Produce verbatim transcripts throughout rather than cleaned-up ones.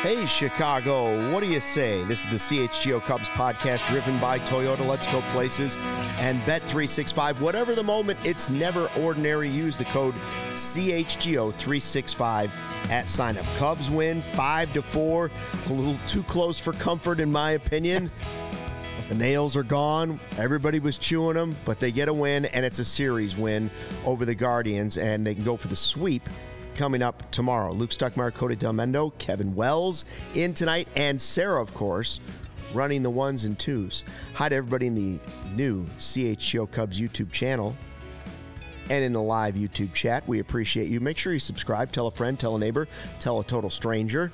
Hey, Chicago, what do you say? This is the C H G O Cubs podcast driven by Toyota. Let's go places and Bet three sixty-five. Whatever the moment, it's never ordinary. Use the code C H G O three sixty-five at sign up. Cubs win five to four. A little too close for comfort, in my opinion. The nails are gone. Everybody was chewing them, but they get a win, and it's a series win over the Guardians, and they can go for the sweep coming up tomorrow. Luke Stuckmeyer, Cody Delmendo, Kevin Wells in tonight, and Sarah, of course, running the ones and twos. Hi to everybody in the new C H G O Cubs YouTube channel and in the live YouTube chat. We appreciate you. Make sure you subscribe, tell a friend, tell a neighbor, tell a total stranger.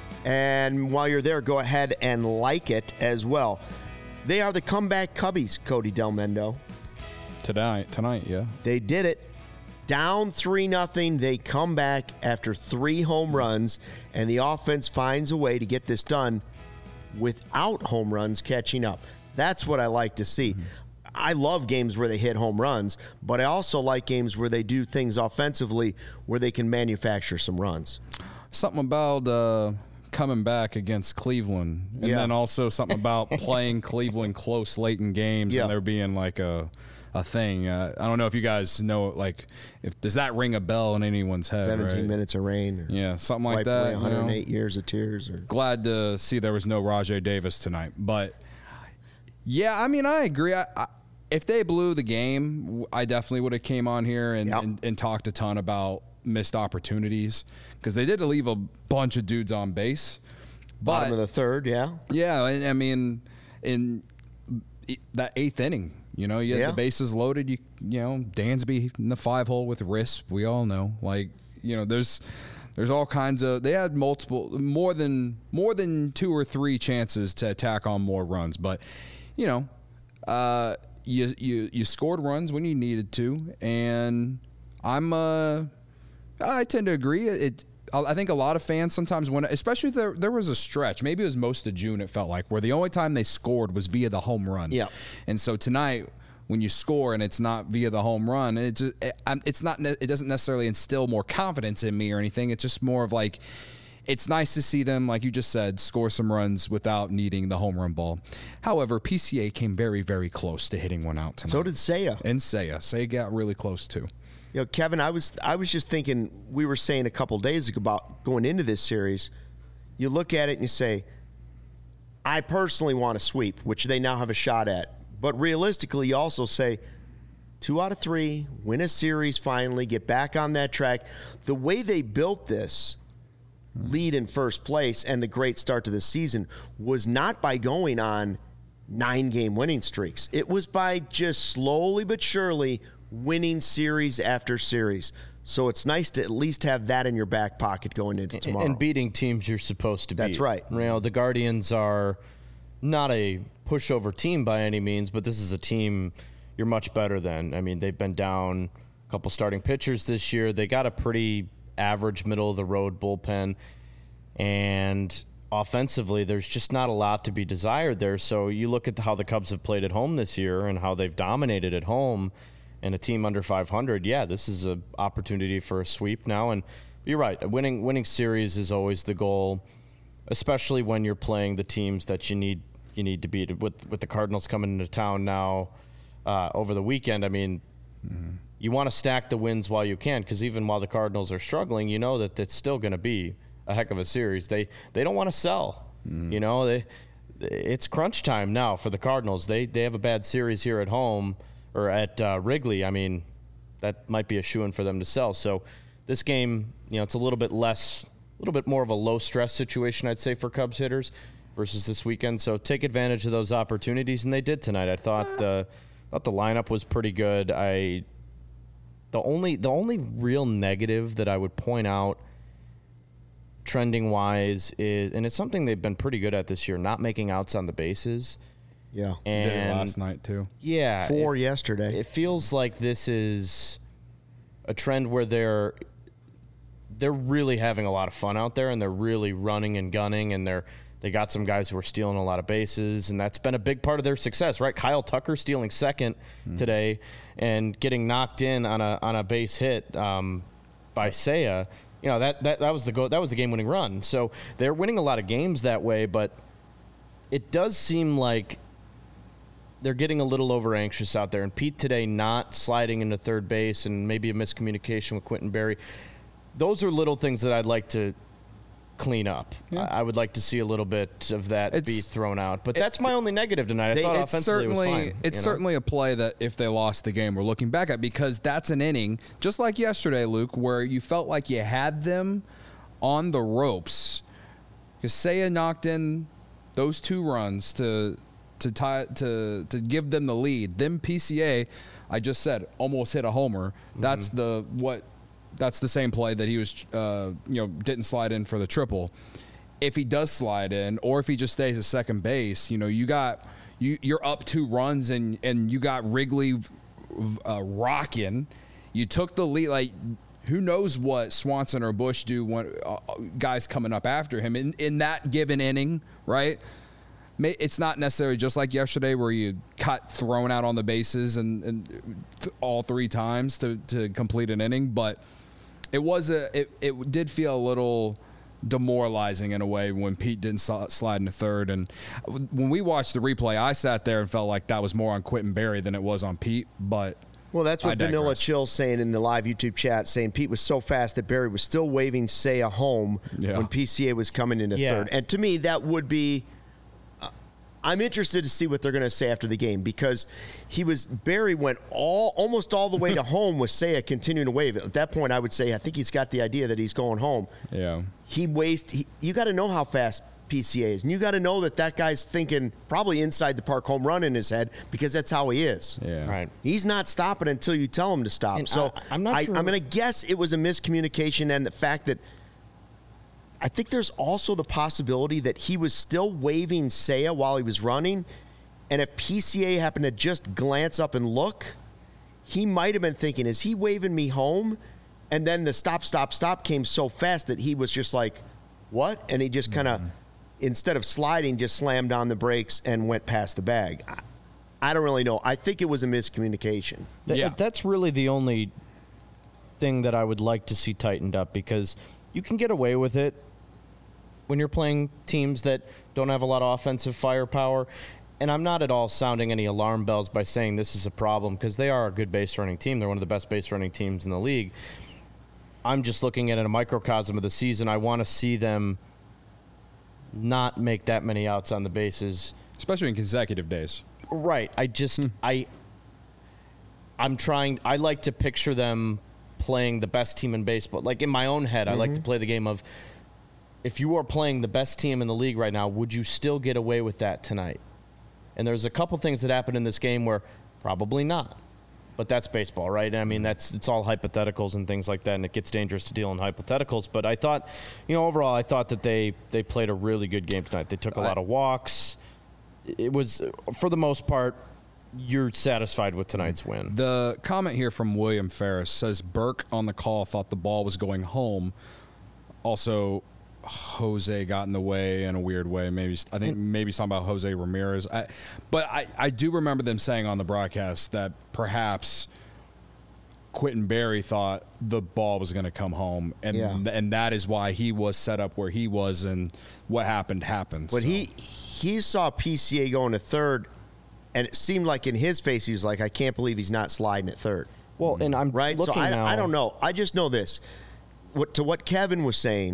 And while you're there, go ahead and like it as well. They are the comeback Cubbies, Cody Delmendo. Tonight, tonight, yeah. They did it. Down three nothing, they come back after three home runs, and the offense finds a way to get this done without home runs catching up. That's what I like to see. Mm-hmm. I love games where they hit home runs, but I also like games where they do things offensively where they can manufacture some runs. Something about uh, coming back against Cleveland, and yeah. then also something about playing Cleveland close late in games, yeah. and there being like a a thing. Uh, I don't know if you guys know, like, if does that ring a bell in anyone's head? seventeen right? minutes of rain. Or yeah, something like that. one hundred eight you know? years of tears. Or Glad to see there was no Rajay Davis tonight. But, yeah, I mean, I agree. I, I, if they blew the game, I definitely would have came on here and, yep. and, and talked a ton about missed opportunities, because they did leave a bunch of dudes on base. But, bottom of the third, yeah. Yeah, I, I mean, in that eighth inning, you know, you had yeah. the bases loaded. You you know, Dansby in the five hole with Risp. We all know, like, you know, there's there's all kinds of. They had multiple, more than more than two or three chances to attack on more runs. But, you know, uh, you you you scored runs when you needed to, and I'm uh, I tend to agree. It. I think a lot of fans sometimes, when, especially there, there was a stretch, maybe it was most of June, it felt like, where the only time they scored was via the home run. Yeah. And so tonight, when you score and it's not via the home run, it's it's not it doesn't necessarily instill more confidence in me or anything. It's just more of like, it's nice to see them, like you just said, score some runs without needing the home run ball. However, P C A came very, very close to hitting one out tonight. So did Seiya. And Seiya. Seiya got really close too. You know, Kevin, I was I was just thinking, we were saying a couple days ago about going into this series. You look at it and you say, I personally want to sweep, which they now have a shot at. But realistically, you also say, two out of three, win a series finally, get back on that track. The way they built this lead in first place and the great start to the season was not by going on nine-game winning streaks. It was by just slowly but surely winning series after series. So it's nice to at least have that in your back pocket going into tomorrow. And beating teams you're supposed to beat. That's right. You know, the Guardians are not a pushover team by any means, but this is a team you're much better than. I mean, they've been down a couple starting pitchers this year. They got a pretty average middle-of-the-road bullpen. And offensively, there's just not a lot to be desired there. So you look at how the Cubs have played at home this year and how they've dominated at home. And a team under five hundred, yeah, this is an opportunity for a sweep now. And you're right, a winning winning series is always the goal, especially when you're playing the teams that you need you need to beat. With with the Cardinals coming into town now uh, over the weekend, I mean, mm-hmm. you want to stack the wins while you can, because even while the Cardinals are struggling, you know that it's still going to be a heck of a series. They they don't want to sell. Mm-hmm. You know, they it's crunch time now for the Cardinals. They they have a bad series here at home. Or at uh, Wrigley, I mean, that might be a shoo-in for them to sell. So this game, you know, it's a little bit less, a little bit more of a low-stress situation, I'd say, for Cubs hitters versus this weekend. So take advantage of those opportunities, and they did tonight. I thought uh, thought the lineup was pretty good. I the only the only real negative that I would point out, trending-wise, is, and it's something they've been pretty good at this year, not making outs on the bases. Yeah, and did it last night too. Yeah, four it, yesterday. It feels like this is a trend where they're they're really having a lot of fun out there, and they're really running and gunning, and they're they got some guys who are stealing a lot of bases, and that's been a big part of their success, right? Kyle Tucker stealing second mm. today and getting knocked in on a on a base hit um, by Seiya. You know, that, that, that was the go- that was the game-winning run. So they're winning a lot of games that way, but it does seem like they're getting a little over-anxious out there. And Pete today not sliding into third base and maybe a miscommunication with Quentin Berry. Those are little things that I'd like to clean up. Yeah. I, I would like to see a little bit of that it's, be thrown out. But it, that's my only negative tonight. I they, thought it's offensively certainly, it was fine. It's you know? certainly a play that if they lost the game, we're looking back at, because that's an inning, just like yesterday, Luke, where you felt like you had them on the ropes. Because Seiya knocked in those two runs to to tie to to give them the lead. Then P C A, I just said, almost hit a homer. Mm-hmm. That's the what. That's the same play that he was, uh, you know, didn't slide in for the triple. If he does slide in, or if he just stays at second base, you know, you got you you're up two runs and and you got Wrigley uh, rocking. You took the lead. Like, who knows what Swanson or Bush do when uh, guys coming up after him in in that given inning, right? It's not necessarily just like yesterday where you cut thrown out on the bases and, and th- all three times to, to complete an inning, but it was a it, it did feel a little demoralizing in a way when Pete didn't slide into third. And when we watched the replay, I sat there and felt like that was more on Quentin Berry than it was on Pete. But well, that's what Vanilla Chill saying in the live YouTube chat, saying Pete was so fast that Berry was still waving Seiya home yeah. when P C A was coming into yeah. third. And to me, that would be. I'm interested to see what they're going to say after the game, because he was Berry went all almost all the way to home with Seiya continuing to wave. At that point, I would say I think he's got the idea that he's going home. Yeah, he waste. He, you got to know how fast P C A is, and you got to know that that guy's thinking probably inside the park home run in his head, because that's how he is. Yeah, right. He's not stopping until you tell him to stop. And so I, I'm not. I, sure. I'm going to guess it was a miscommunication, and the fact that. I think there's also the possibility that he was still waving Seiya while he was running, and if P C A happened to just glance up and look, he might have been thinking, is he waving me home? And then the stop, stop, stop came so fast that he was just like, what? And he just kind of, mm-hmm. instead of sliding, just slammed on the brakes and went past the bag. I, I don't really know. I think it was a miscommunication. Th- yeah. That's really the only thing that I would like to see tightened up, because you can get away with it when you're playing teams that don't have a lot of offensive firepower. And I'm not at all sounding any alarm bells by saying this is a problem, because they are a good base running team. They're one of the best base running teams in the league. I'm just looking at it a microcosm of the season. I want to see them not make that many outs on the bases. Especially in consecutive days. Right. I just, I, I'm trying, I like to picture them playing the best team in baseball. Like in my own head, mm-hmm. I like to play the game of, if you are playing the best team in the league right now, would you still get away with that tonight? And there's a couple things that happened in this game where probably not. But that's baseball, right? I mean, that's it's all hypotheticals and things like that, and it gets dangerous to deal in hypotheticals. But I thought, you know, overall, I thought that they, they played a really good game tonight. They took a lot of walks. It was, for the most part, you're satisfied with tonight's win. The comment here from William Ferris says Burke on the call thought the ball was going home. Also, Jose got in the way in a weird way. Maybe I think maybe he's talking about Jose Ramirez. I, but I, I do remember them saying on the broadcast that perhaps Quentin Berry thought the ball was going to come home, and yeah. and that is why he was set up where he was, and what happened happened. But so. he he saw P C A going to third, and it seemed like in his face he was like, I can't believe he's not sliding at third. Well, and I'm right. So looking I, now. I don't know. I just know this. What to what Kevin was saying.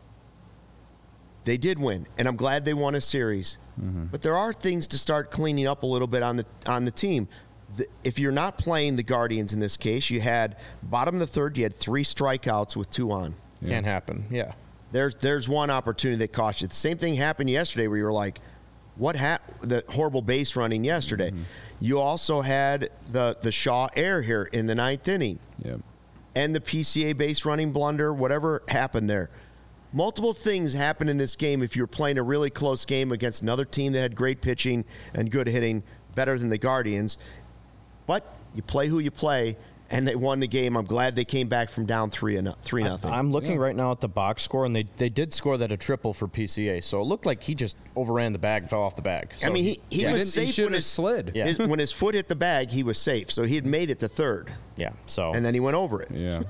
They did win, and I'm glad they won a series. Mm-hmm. But there are things to start cleaning up a little bit on the on the team. The, if you're not playing the Guardians in this case, you had bottom of the third, you had three strikeouts with two on. Yeah. Can't happen. Yeah. There's there's one opportunity that cost you. The same thing happened yesterday where you were like, what happened? The horrible base running yesterday. Mm-hmm. You also had the, the Shaw error here in the ninth inning. Yep. And the P C A base running blunder, whatever happened there. Multiple things happen in this game if you're playing a really close game against another team that had great pitching and good hitting, better than the Guardians. But you play who you play, and they won the game. I'm glad they came back from down three and three nothing. I'm looking yeah. right now at the box score, and they they did score that a triple for P C A. So it looked like he just overran the bag and fell off the bag. So I mean, he, he yeah. was he safe he when his slid. Yeah. His, when his foot hit the bag, he was safe. So he had made it to third. Yeah. So and then he went over it. Yeah.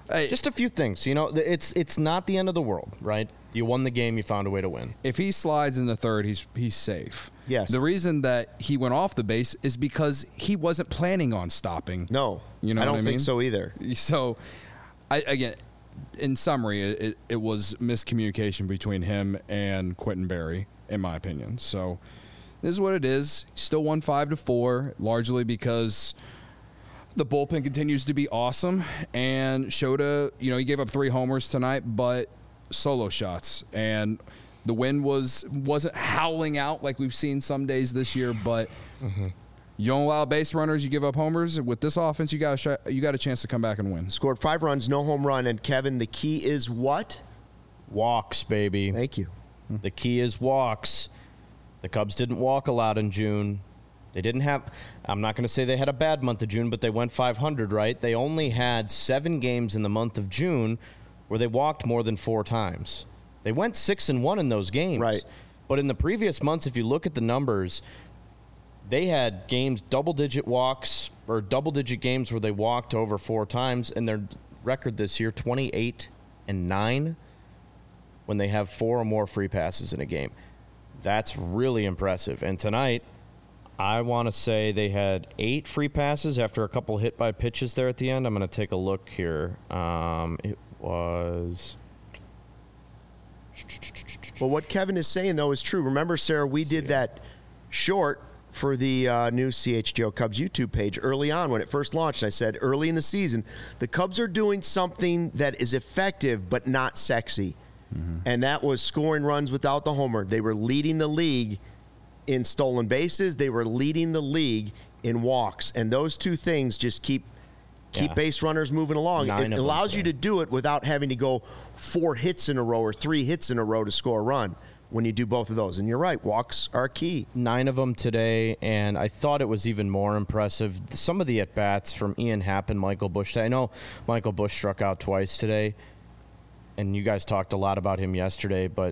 Hey, Just a few things. You know, it's it's not the end of the world, right? You won the game. You found a way to win. if he slides in the third, he's he's safe. Yes. The reason that he went off the base is because he wasn't planning on stopping. No, You know I don't what I think mean? so either. So, I again, in summary, it, it, it was miscommunication between him and Quentin Berry, in my opinion. So, this is what it is. He still won five to four, largely because the bullpen continues to be awesome. And Shota, you know, he gave up three homers tonight, but solo shots. And the wind was wasn't howling out like we've seen some days this year, but. Mm-hmm. You don't allow base runners, you give up homers. With this offense, you got a sh- you got a chance to come back and win. Scored five runs, no home run. And Kevin, the key is what? Walks, baby. Thank you. The key is walks. The Cubs didn't walk a lot in June. They didn't have, I'm not going to say they had a bad month of June, but they went five hundred, right? They only had seven games in the month of June where they walked more than four times. They went six and one in those games. Right. But in the previous months, if you look at the numbers, they had games, double-digit walks, or double-digit games where they walked over four times, and their record this year, twenty-eight and nine, when they have four or more free passes in a game. That's really impressive. And tonight, I want to say they had eight free passes after a couple hit by pitches there at the end. I'm going to take a look here. Um, it was... Well, what Kevin is saying, though, is true. Remember, Sarah, we did that short for the uh, new C H G O Cubs YouTube page early on when it first launched. I said early in the season, the Cubs are doing something that is effective but not sexy. Mm-hmm. And that was scoring runs without the homer. They were leading the league in stolen bases. They were leading the league in walks. And those two things just keep keep Yeah. base runners moving along. Nine It of allows them you to do it without having to go four hits in a row or three hits in a row to score a run when you do both of those. And you're right, walks are key. Nine of them today, and I thought it was even more impressive. Some of the at-bats from Ian Happ and Michael Busch. I know Michael Busch struck out twice today, and you guys talked a lot about him yesterday, but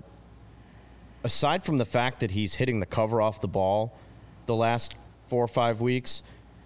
aside from the fact that he's hitting the cover off the ball the last four or five weeks,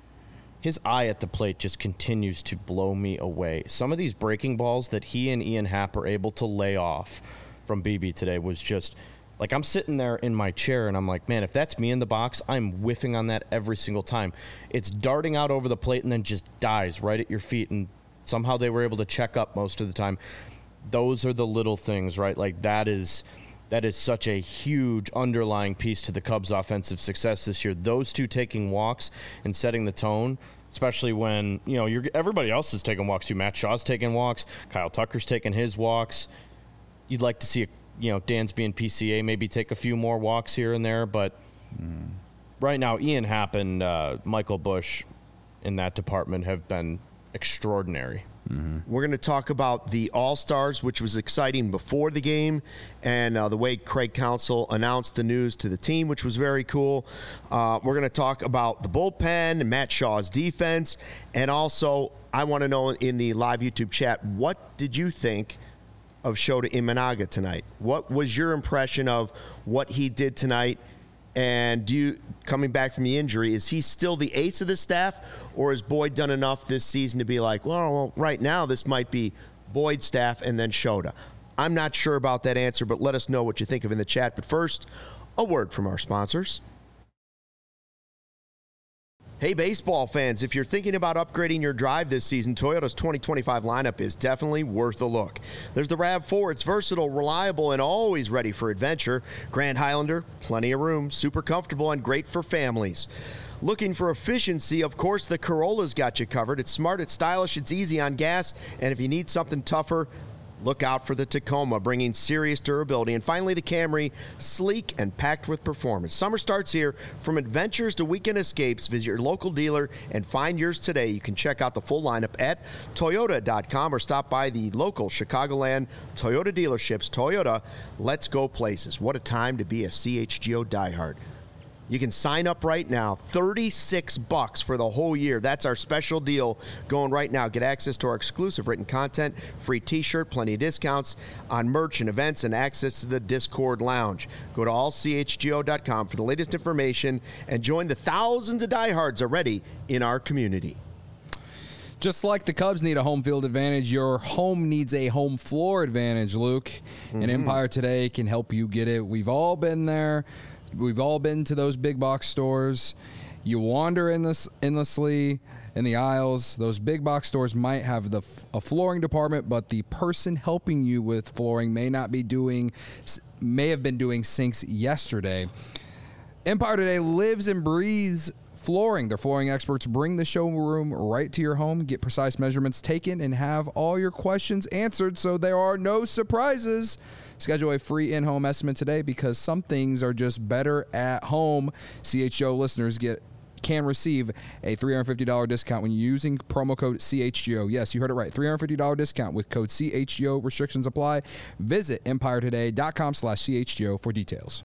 his eye at the plate just continues to blow me away. Some of these breaking balls that he and Ian Happ are able to lay off from B B today was just... Like, I'm sitting there in my chair, and I'm like, man, if that's me in the box, I'm whiffing on that every single time. It's darting out over the plate and then just dies right at your feet, and somehow they were able to check up most of the time. Those are the little things, right? Like, that is that is such a huge underlying piece to the Cubs' offensive success this year. Those two taking walks and setting the tone, especially when, you know, you're, everybody else is taking walks too. Matt Shaw's taking walks. Kyle Tucker's taking his walks. You'd like to see a You know, Dansby and P C A maybe take a few more walks here and there, but mm. right now, Ian Happ and uh, Michael Busch in that department have been extraordinary. Mm-hmm. We're going to talk about the All-Stars, which was exciting before the game, and uh, the way Craig Counsell announced the news to the team, which was very cool. Uh, we're going to talk about the bullpen and Matt Shaw's defense, and also I want to know in the live YouTube chat, what did you think of Shota Imanaga tonight? What was your impression of what he did tonight? And do you, coming back from the injury, is he still the ace of the staff, or has Boyd done enough this season to be like, well, well right now this might be Boyd's staff and then Shota? I'm not sure about that answer, but let us know what you think of in the chat. But first, a word from our sponsors. Hey, baseball fans, if you're thinking about upgrading your drive this season, Toyota's twenty twenty-five lineup is definitely worth a look. There's the RAV four. It's versatile, reliable, and always ready for adventure. Grand Highlander, plenty of room, super comfortable, and great for families. Looking for efficiency, of course, the Corolla's got you covered. It's smart, it's stylish, it's easy on gas, and if you need something tougher, look out for the Tacoma, bringing serious durability. And finally, the Camry, sleek and packed with performance. Summer starts here. From adventures to weekend escapes, visit your local dealer and find yours today. You can check out the full lineup at Toyota dot com or stop by the local Chicagoland Toyota dealerships. Toyota, let's go places. What a time to be a C H G O diehard. You can sign up right now, thirty-six bucks for the whole year. That's our special deal going right now. Get access to our exclusive written content, free t-shirt, plenty of discounts on merch and events, and access to the Discord lounge. Go to all C H G O dot com for the latest information and join the thousands of diehards already in our community. Just like the Cubs need a home field advantage, your home needs a home floor advantage, Luke. Mm-hmm. And Empire Today can help you get it. We've all been there. We've all been to those big box stores. You wander endless, endlessly in the aisles. Those big box stores might have the a flooring department, but the person helping you with flooring may not be doing, may have been doing sinks yesterday. Empire Today lives and breathes flooring. Their flooring experts bring the showroom right to your home, get precise measurements taken, and have all your questions answered so there are no surprises. Schedule a free in-home estimate today because some things are just better at home. C H G O listeners get can receive a three hundred fifty dollars discount when using promo code C H G O. Yes, you heard it right. three hundred fifty dollars discount with code C H G O. Restrictions apply. Visit empire today dot com slash C H G O for details.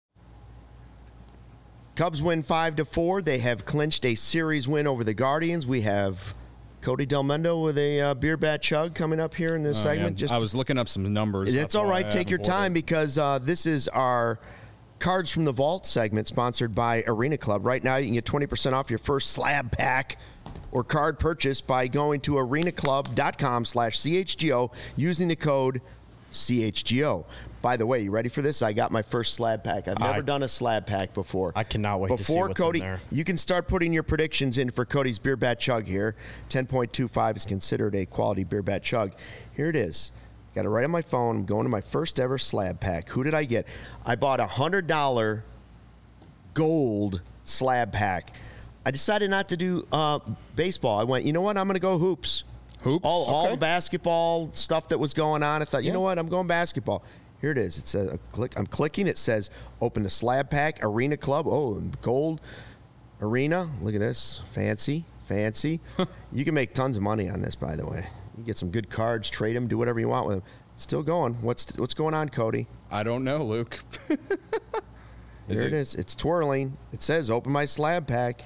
Cubs win five to four. They have clinched a series win over the Guardians. We have Cody Del Mundo with a uh, beer bat chug coming up here in this oh, segment. Yeah. Just I was looking up some numbers. It's all right. Take your time because uh, this is our Cards from the Vault segment sponsored by Arena Club. Right now, you can get twenty percent off your first slab pack or card purchase by going to arena club dot com slash C H G O using the code C H G O. By the way, you ready for this? I got my first slab pack. I've never I, done a slab pack before. I cannot wait before to see what's Cody, in there. You can start putting your predictions in for Cody's beer bat chug here. ten point two five is considered a quality beer bat chug. Here it is. Got it right on my phone. I'm going to my first ever slab pack. Who did I get? I bought a one hundred dollars gold slab pack. I decided not to do uh, baseball. I went, you know what? I'm going to go hoops. Hoops? All, Okay. all the basketball stuff that was going on. I thought, you Yeah. know what? I'm going basketball. Here it is. It says, uh, click, I'm clicking. It says, open the slab pack, Arena Club. Oh, gold arena. Look at this. Fancy, fancy. You can make tons of money on this, by the way. You get some good cards, trade them, do whatever you want with them. Still going. What's what's going on, Cody? I don't know, Luke. Is Here it, it is. It's twirling. It says, open my slab pack.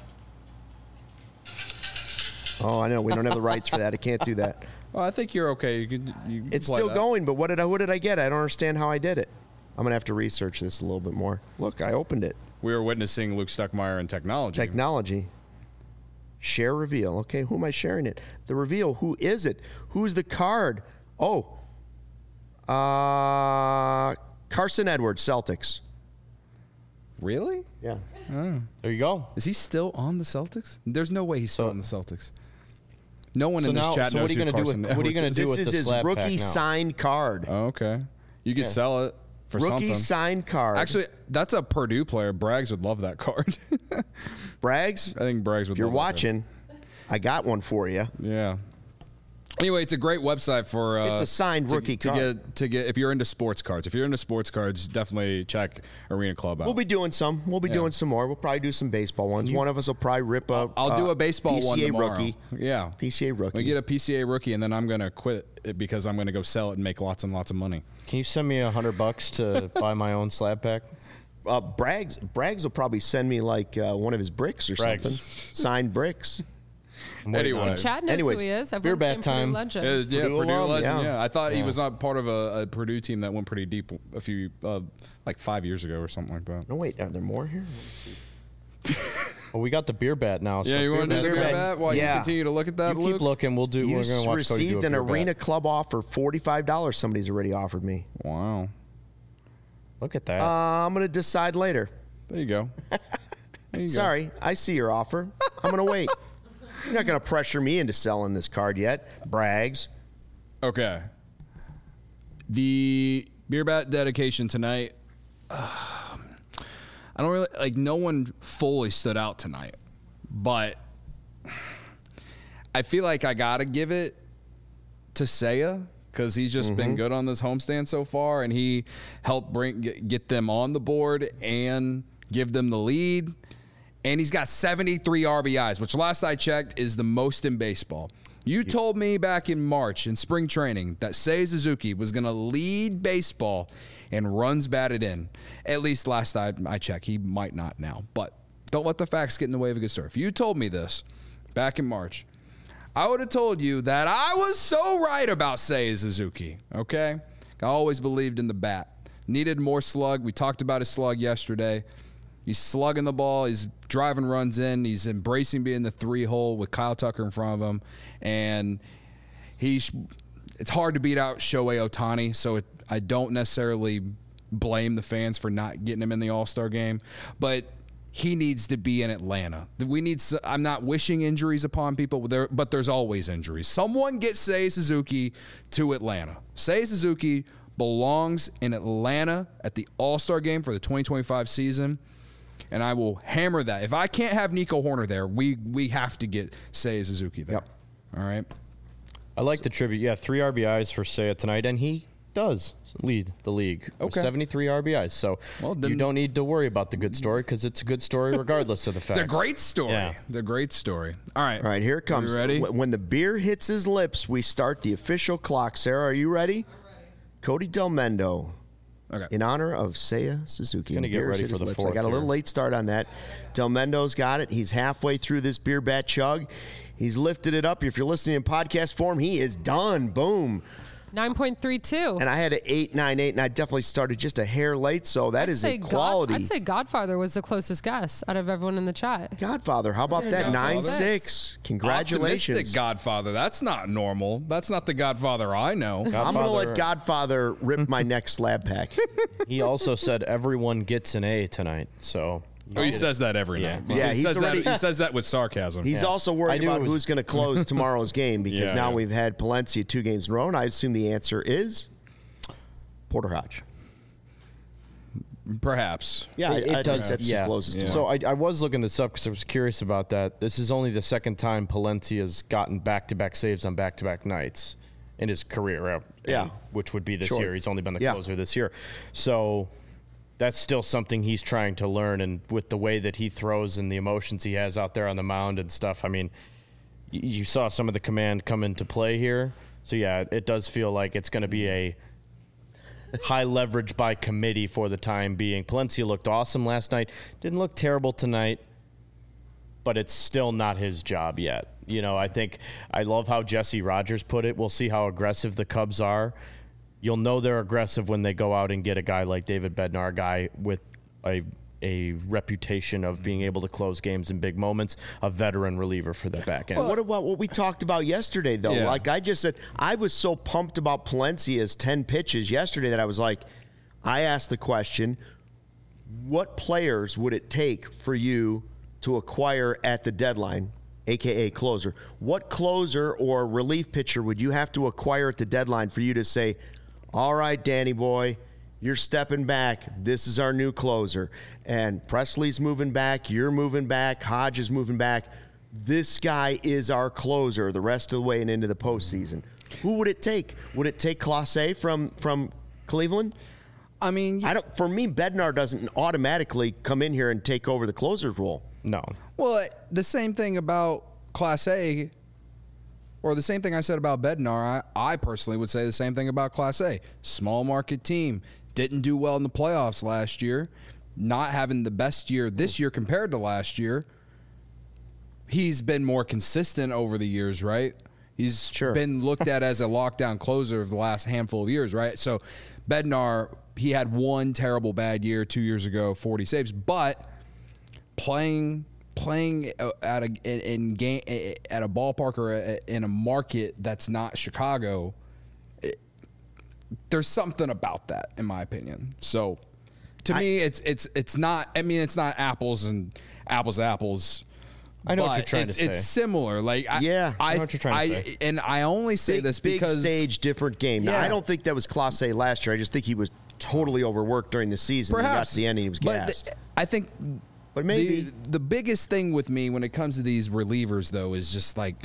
Oh, I know. We don't have the rights for that. I can't do that. Well, I think you're okay. You can. You can It's play still that. going, but what did I? What did I get? I don't understand how I did it. I'm gonna have to research this a little bit more. Look, I opened it. We were witnessing Luke Stuckmeyer and technology. Technology. Share reveal. Okay, who am I sharing it? The reveal. Who is it? Who's the card? Oh, uh, Carson Edwards, Celtics. Really? Yeah. Oh. There you go. Is he still on the Celtics? There's no way he's still So- on the Celtics. No one So in this now- chat so knows what are you who gonna do Carson with- what are you Edwards gonna is. do This with is the his slab rookie pack now? signed card. Oh, okay. You could Yeah. sell it for Rookie something. signed card. Actually, that's a Purdue player. Braggs would love that card. Braggs, I think Braggs would if you're love that card. watching, I got one for you. Yeah. Anyway, it's a great website for. Uh, It's a signed to- rookie to card. get to get if you're into sports cards. If you're into sports cards, definitely check Arena Club out. We'll be doing some. We'll be Yeah. doing some more. We'll probably do some baseball ones. One of us will probably rip a. I'll do uh, a baseball P C A one tomorrow. rookie. Yeah, P C A rookie. I get a P C A rookie, and then I'm gonna quit it because I'm gonna go sell it and make lots and lots of money. Can you send me a hundred bucks to buy my own slab pack? Uh, Braggs, Braggs will probably send me like uh, one of his bricks or Braggs. something. Signed bricks. I'm waiting on Anyway. it. Chad knows Anyways, who he is. beer Everyone's bat saying Purdue time. legend. Uh, yeah, Purdue Purdue alum, legend. yeah. Yeah. I thought he Yeah. was not part of a, a Purdue team that went pretty deep a few, uh, like five years ago or something like that. No, wait. Are there more here? Well, we got the beer bat now. So Yeah, you want to do the Beer beer bat. bat while Yeah. you continue to look at that, You Luke? keep looking. We'll do. You we're gonna watch Cody do received a an beer Arena bat. Club offer, forty-five dollars. Somebody's already offered me. Wow. Look at that. Uh, I'm going to decide later. There you go. There you go. Sorry, I see your offer. I'm going to wait. You're not going to pressure me into selling this card yet, Braggs. Okay. The beer bat dedication tonight. Uh, I don't really like. No one fully stood out tonight, but I feel like I gotta give it to Seiya because he's just been good on this homestand so far, and he helped bring get, get them on the board and give them the lead. And he's got seventy-three R B Is, which last I checked is the most in baseball. You told me back in March in spring training that Seiya Suzuki was going to lead baseball and runs batted in. At least last I, I checked. He might not now. But don't let the facts get in the way of a good story. If you told me this back in March, I would have told you that I was so right about Seiya Suzuki, okay? I always believed in the bat. Needed more slug. We talked about his slug yesterday. He's slugging the ball. He's driving runs in. He's embracing being the three hole with Kyle Tucker in front of him. And he's it's hard to beat out Shohei Ohtani, so it, I don't necessarily blame the fans for not getting him in the All-Star game. But he needs to be in Atlanta. We need. I'm not wishing injuries upon people, but, there, but there's always injuries. Someone get Seiya Suzuki to Atlanta. Seiya Suzuki belongs in Atlanta at the All-Star game for the twenty twenty-five season. And I will hammer that. If I can't have Nico Horner there, we we have to get Seiya Suzuki there. Yep. All right. I like the tribute. Yeah, three R B Is for Seiya tonight, and he does lead the league with Okay. seventy-three R B Is. So Well, then- you don't need to worry about the good story because it's a good story regardless of the facts. It's a great story. Yeah. It's a great story. All right. All right, here it comes. You ready? Wh- When the beer hits his lips, we start the official clock. Sarah, are you ready? Cody Delmendo, Okay. in honor of Seiya Suzuki. gonna And get beers ready hit for his the lips. I fourth got a little here. late start on that. Delmendo's got it. He's halfway through this beer bat chug. He's lifted it up. If you're listening in podcast form, he is done. Boom. nine point three two. And I had an eight nine eight, and I definitely started just a hair late, so that I'd is say a God- quality. I'd say Godfather was the closest guess out of everyone in the chat. Godfather. How about that? Godfather. nine six. Congratulations. Optimistic Godfather. That's not normal. That's not the Godfather I know. I'm going to Godfather- let Godfather rip my next slab pack. He also said everyone gets an A tonight. So Oh, he says that every Yeah. night. Yeah, he he's says already- that. He says that with sarcasm. He's Yeah. also I worried knew about it was- who's going to close tomorrow's game because Yeah, now yeah. we've had Palencia two games in a row, and I assume the answer is Porter Hodge. Perhaps. Yeah, it, I, I it does. think that's yeah. the closest Yeah. to So one. I, I was looking this up because I was curious about that. This is only the second time Palencia's gotten back-to-back saves on back-to-back nights in his career. uh, Yeah. which would be this Sure. year. He's only been the Yeah. closer this year. So that's still something he's trying to learn. And with the way that he throws and the emotions he has out there on the mound and stuff, I mean, y- you saw some of the command come into play here. So yeah, it does feel like it's going to be a high leverage by committee for the time being. Palencia looked awesome last night. Didn't look terrible tonight, but it's still not his job yet. You know, I think I love how Jesse Rogers put it. We'll see how aggressive the Cubs are. You'll know they're aggressive when they go out and get a guy like David Bednar, a guy with a a reputation of being able to close games in big moments, a veteran reliever for the back end. What about what we talked about yesterday, though? Yeah. Like I just said, I was so pumped about Palencia's ten pitches yesterday that I was like, I asked the question, what players would it take for you to acquire at the deadline, a k a closer? What closer or relief pitcher would you have to acquire at the deadline for you to say, all right, Danny boy, you're stepping back. This is our new closer. And Presley's moving back. You're moving back. Hodge is moving back. This guy is our closer the rest of the way and into the postseason. Who would it take? Would it take Clase from from Cleveland? I mean, I don't. For me, Bednar doesn't automatically come in here and take over the closer's role. No. well, the same thing about Class A, or the same thing I said about Bednar. I, I personally would say the same thing about Class A. Small market team. Didn't do well in the playoffs last year. Not having the best year this year compared to last year. He's been more consistent over the years, right? He's Sure. been looked at as a lockdown closer of the last handful of years, right? So Bednar, he had one terrible bad year two years ago, forty saves, but playing playing at a in, in game at a ballpark or a, in a market that's not Chicago, it, there's something about that, in my opinion. So to I- me, it's it's it's not. I mean, it's not apples and apples to apples. I know what but you're trying it's, to it's say. similar. Like I, Yeah, I I, know what you're trying to I- say. and I only say Big, this big because stage, different game. Now, Yeah. I don't think that was Clase last year. I just think he was totally overworked during the season. When he got perhaps to the end and he was but gassed. th- I think, But maybe- the, the biggest thing with me when it comes to these relievers, though, is just like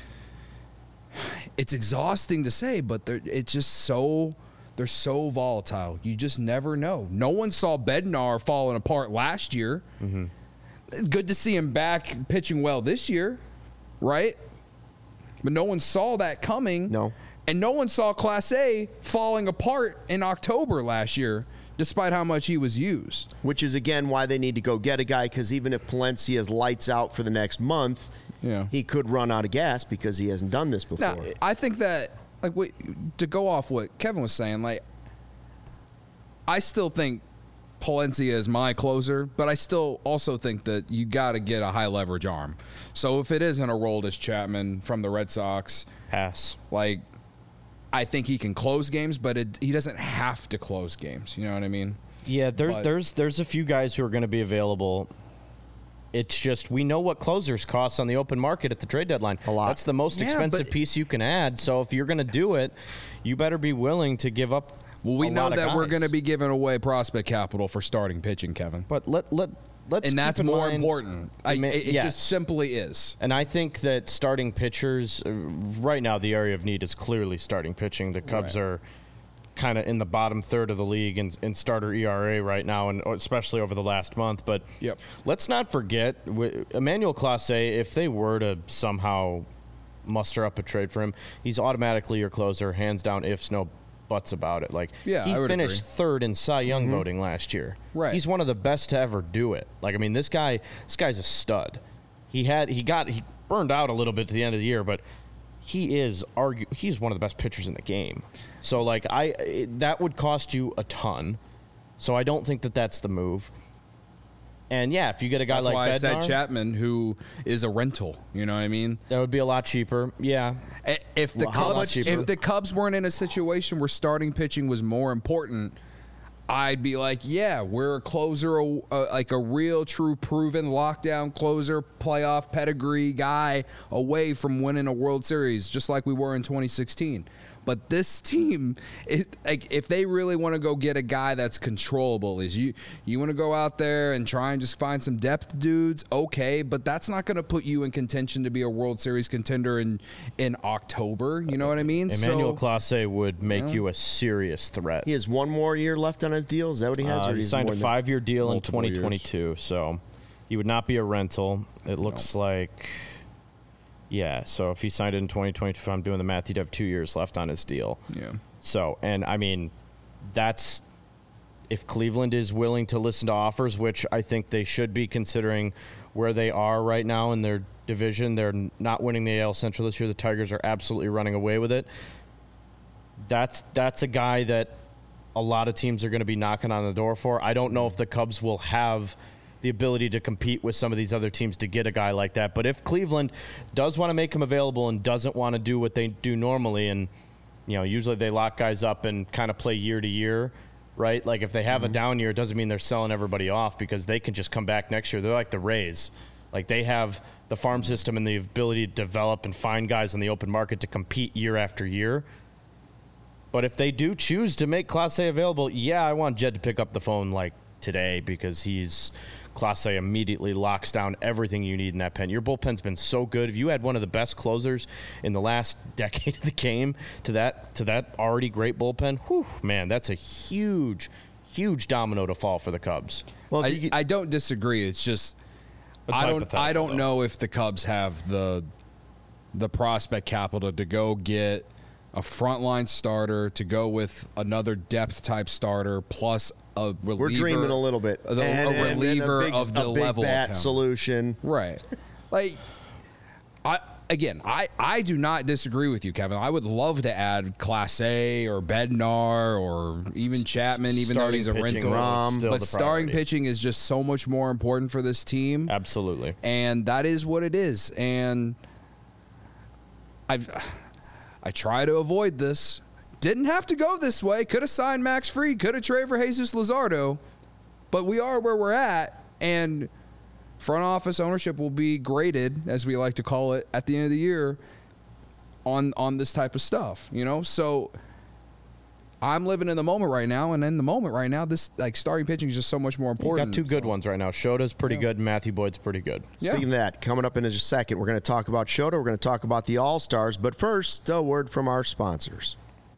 it's exhausting to say, but they're it's just so they're so volatile. You just never know. No one saw Bednar falling apart last year. Mm-hmm. It's good to see him back pitching well this year, right? But no one saw that coming. No. And no one saw Class A falling apart in October last year, despite how much he was used. Which is, again, why they need to go get a guy, because even if Palencia's lights out for the next month, Yeah. he could run out of gas because he hasn't done this before. Now, I think that, like, wait, to go off what Kevin was saying, like, I still think Palencia is my closer, but I still also think that you got to get a high leverage arm. So if it isn't Aroldis Chapman from the Red Sox, pass. Like, I think he can close games, but it, he doesn't have to close games. You know what I mean? Yeah, there, But- there's there's a few guys who are going to be available. It's just we know what closers cost on the open market at the trade deadline. A lot. That's the most Yeah, expensive but- piece you can add. So if you're going to do it, you better be willing to give up. Well, we a know lot of that we're guys. going to be giving away prospect capital for starting pitching, Kevin. But let let let's And that's keep in more mind- important. I, Ma- it it yes. just simply is. And I think that starting pitchers, uh, right now, the area of need is clearly starting pitching. The Cubs Right. are kind of in the bottom third of the league in, in starter E R A right now, and especially over the last month. But Yep. let's not forget, w- Emmanuel Clase, if they were to somehow muster up a trade for him, he's automatically your closer, hands down, ifs, no buts about it. Like, Yeah, he I would finished agree. third in Cy Young voting last year. Right. He's one of the best to ever do it. Like, I mean, this guy, this guy's a stud. He had, he got, he burned out a little bit at the end of the year, but he is argue, he's one of the best pitchers in the game. So, like, I, it, that would cost you a ton. So I don't think that that's the move. And yeah, if you get a guy That's like why I said Bednar, Chapman, who is a rental. You know what I mean? that would be a lot cheaper. Yeah. I- If the Well, how much Cubs, cheaper? if the Cubs weren't in a situation where starting pitching was more important, I'd be like, yeah, we're a closer, a, a, like a real, true, proven lockdown closer, playoff pedigree guy away from winning a World Series, just like we were in twenty sixteen. But this team, it, like, if they really want to go get a guy that's controllable, is you you want to go out there and try and just find some depth dudes, okay, but that's not going to put you in contention to be a World Series contender in in October. You know what I mean? Emmanuel so, Clase would make you a serious threat. He has one more year left on his deal. Is that what he has? Uh, or he he's signed more a than- five-year deal in Multiple twenty twenty-two, so he would not be a rental. It looks like, yeah. So if he signed it in twenty twenty-two, if I'm doing the math, he'd have two years left on his deal. yeah. So, and I mean, that's if Cleveland is willing to listen to offers, which I think they should be considering where they are right now in their division. They're not winning the A L Central this year. The Tigers are absolutely running away with it. That's that's a guy that a lot of teams are going to be knocking on the door for. I don't know if the Cubs will have the ability to compete with some of these other teams to get a guy like that. But if Cleveland does want to make him available and doesn't want to do what they do normally, and you know, usually they lock guys up and kind of play year to year, right? Like if they have a down year, it doesn't mean they're selling everybody off because they can just come back next year. They're like the Rays. Like they have the farm system and the ability to develop and find guys in the open market to compete year after year. But if they do choose to make Clase available, yeah, I want Jed to pick up the phone like today because he's Clase immediately locks down everything you need in that pen. Your bullpen's been so good. If you had one of the best closers in the last decade of the game to that to that already great bullpen, whew, man, that's a huge, huge domino to fall for the Cubs. Well, I, if you get- I don't disagree. It's just It's I don't I hypothetical, don't though. know if the Cubs have the the prospect capital to go get a frontline starter, to go with another depth type starter plus a reliever. we're dreaming a little bit. A, And- a and- and reliever a big, of the a big level bat of him. solution. Right. Like, I again, I, I do not disagree with you, Kevin. I would love to add Clase or Bednar or even Chapman, even though Starting he's a pitching rental. is still But the starting priority. pitching is just so much more important for this team. Absolutely. And that is what it is. And I've I try to avoid this. Didn't have to go this way. Could have signed Max Fried. Could have traded for Jesus Luzardo. But we are where we're at. And front office ownership will be graded, as we like to call it, at the end of the year on on this type of stuff. You know? So I'm living in the moment right now, and in the moment right now, this like starting pitching is just so much more You important. got two good So, ones right now. Shota's pretty good. And Matthew Boyd's pretty good. Yeah. Speaking of that, coming up in just a second, we're going to talk about Shota. We're going to talk about the All-Stars. But first, a word from our sponsors.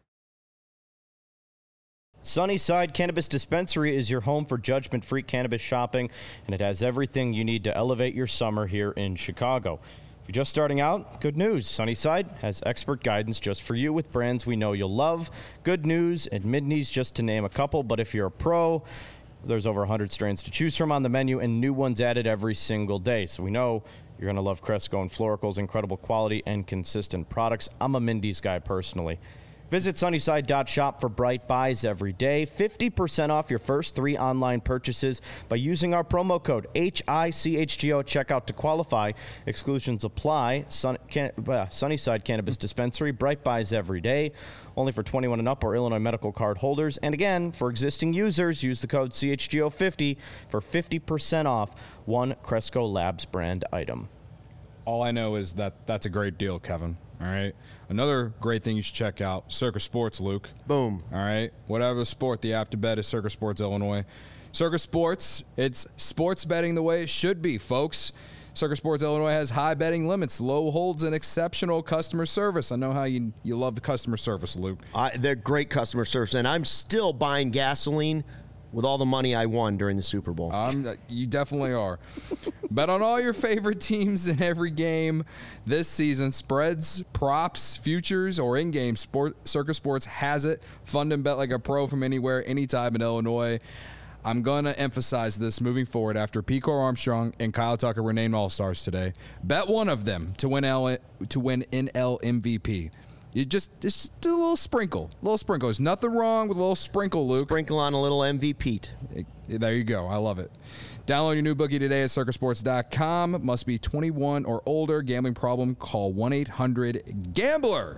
Sunnyside Cannabis Dispensary is your home for judgment-free cannabis shopping, and it has everything you need to elevate your summer here in Chicago. If you're just starting out, good news. Sunnyside has expert guidance just for you with brands we know you'll love. Good news and Midneys, just to name a couple. But if you're a pro, there's over one hundred strains to choose from on the menu and new ones added every single day. So we know you're going to love Cresco and Florical's incredible quality and consistent products. I'm a Mindy's guy personally. Visit Sunnyside dot shop for bright buys every day. fifty percent off your first three online purchases by using our promo code H I C H G O at checkout to qualify. Exclusions apply. Sun, can, uh, Sunnyside Cannabis Dispensary, bright buys every day. Only for twenty-one and up or Illinois medical card holders. And again, for existing users, use the code C H G O fifty for fifty percent off one Cresco Labs brand item. All I know is that that's a great deal, Kevin. All right. Another great thing you should check out, Circus Sports, Luke. Boom. All right. Whatever the sport, the app to bet is Circus Sports Illinois. Circus Sports, it's sports betting the way it should be, folks. Circus Sports Illinois has high betting limits, low holds, and exceptional customer service. I know how you you love the customer service, Luke. Uh, they're great customer service, and I'm still buying gasoline with all the money I won during the Super Bowl. Um, you definitely are. Bet on all your favorite teams in every game this season. Spreads, props, futures, or in-game sport. Circus Sports has it. Fund and bet like a pro from anywhere, anytime in Illinois. I'm going to emphasize this moving forward after Pico Armstrong and Kyle Tucker were named All-Stars today. Bet one of them to win L- to win N L M V P. You just, just do a little sprinkle. A little sprinkle. There's nothing wrong with a little sprinkle, Luke. Sprinkle on a little M V P. There you go. I love it. Download your new bookie today at circus sports dot com. Must be twenty-one or older. Gambling problem? Call one eight hundred gambler.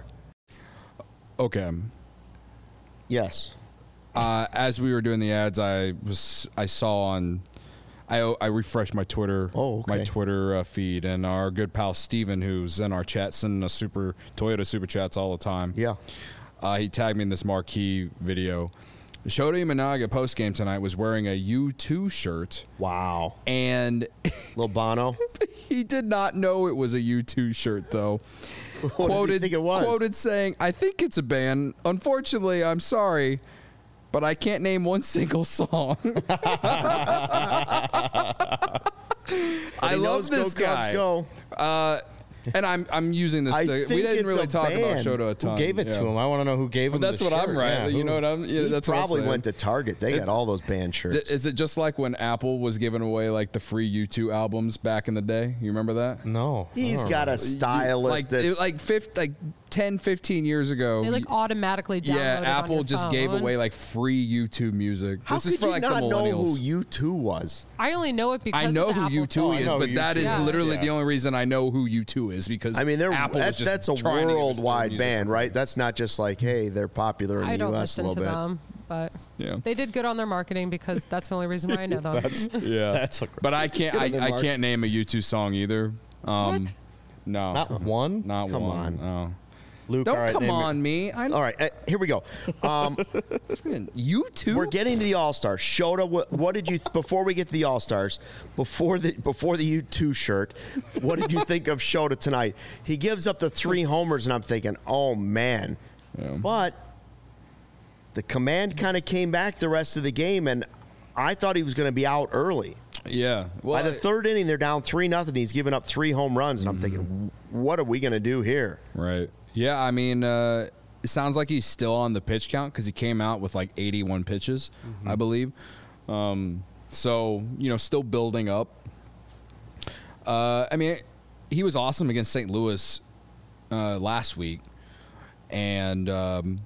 Okay. Yes. Uh, as we were doing the ads, I was I saw on I I refreshed my Twitter oh, okay. my Twitter uh, feed, and our good pal Steven, who's in our chat, sending us super Toyota super chats all the time. Yeah. Uh, he tagged me in this marquee video. Shota Imanaga post game tonight was wearing a U two shirt. Wow. And Lil Bono. He did not know it was a U two shirt, though. What quoted, did he think it was? Quoted saying, "I think it's a band. Unfortunately, I'm sorry, but I can't name one single song." I love this go, guy. Go. Uh, and I'm I'm using this. I To, we think didn't it's really a talk band. about Shota a ton. Who gave it yeah. to him? I want to know who gave him Well, that's the what shirt. I'm right. Yeah, you who- know what I'm. Yeah, He that's probably what I'm saying. went to Target. They got all those band shirts. Th- Is it just like when Apple was giving away like the free U two albums back in the day? You remember that? No. He's I don't got know. a stylist like that's it, like fifty, like ten, fifteen years ago. They like automatically download yeah, it on Apple your just phone. gave away like free U two music. How this could is for you like not the know millennials. who U two was? I only know it because I know of the who Apple U two phone. is, I know but who that U two is is. literally Yeah. the only reason I know who U two is because I mean, they're Apple that, was just that's a trying to give us their worldwide music band, for right? free. That's not just like, hey, they're popular in I the don't U S a listen to little bit. them, but Yeah. they did good on their marketing because that's the only reason why I know them. Yeah, That's a but I can't. Good I, on their I mark. can't name a U two song either. Um, What? No, Not one? not Come one. on. No. Luke, Don't all right, come name it. on me. I All right, uh, here we go. Um, You too. we're getting to the All Stars. Shota, what, what did you before we get to the All Stars? Before the before the U two shirt, what did you think of Shota tonight? He gives up the three homers, and I'm thinking, oh man. Yeah. But the command kind of came back the rest of the game, and I thought he was going to be out early. Yeah. Well, By the third inning, they're down three nothing. He's given up three home runs, and I'm thinking, what are we going to do here? right. Yeah. I mean, uh, it sounds like he's still on the pitch count because he came out with like eighty-one pitches, I believe. Um, so you know, still building up. Uh, I mean, he was awesome against Saint Louis uh, last week, and. Um,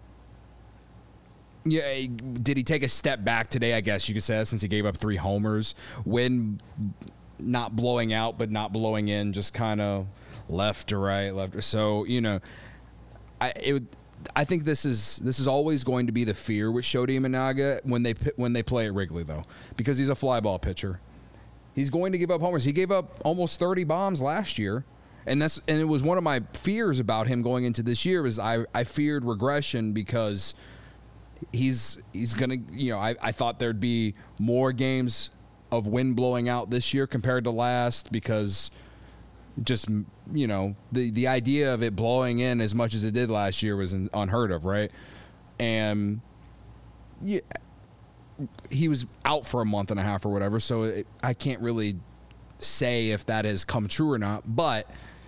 Yeah, did he take a step back today? I guess you could say, since he gave up three homers, when not blowing out but not blowing in, just kind of left to right, left. To, so you know, I it would, I think this is this is always going to be the fear with Shota Imanaga when they when they play at Wrigley, though, because he's a fly ball pitcher. He's going to give up homers. He gave up almost thirty bombs last year. And that's and it was one of my fears about him going into this year was I, I feared regression because he's he's gonna you know I, I thought there'd be more games of wind blowing out this year compared to last because just you know the the idea of it blowing in as much as it did last year was unheard of, right? And yeah, he was out for a month and a half or whatever, so it, I can't really say if that has come true or not. But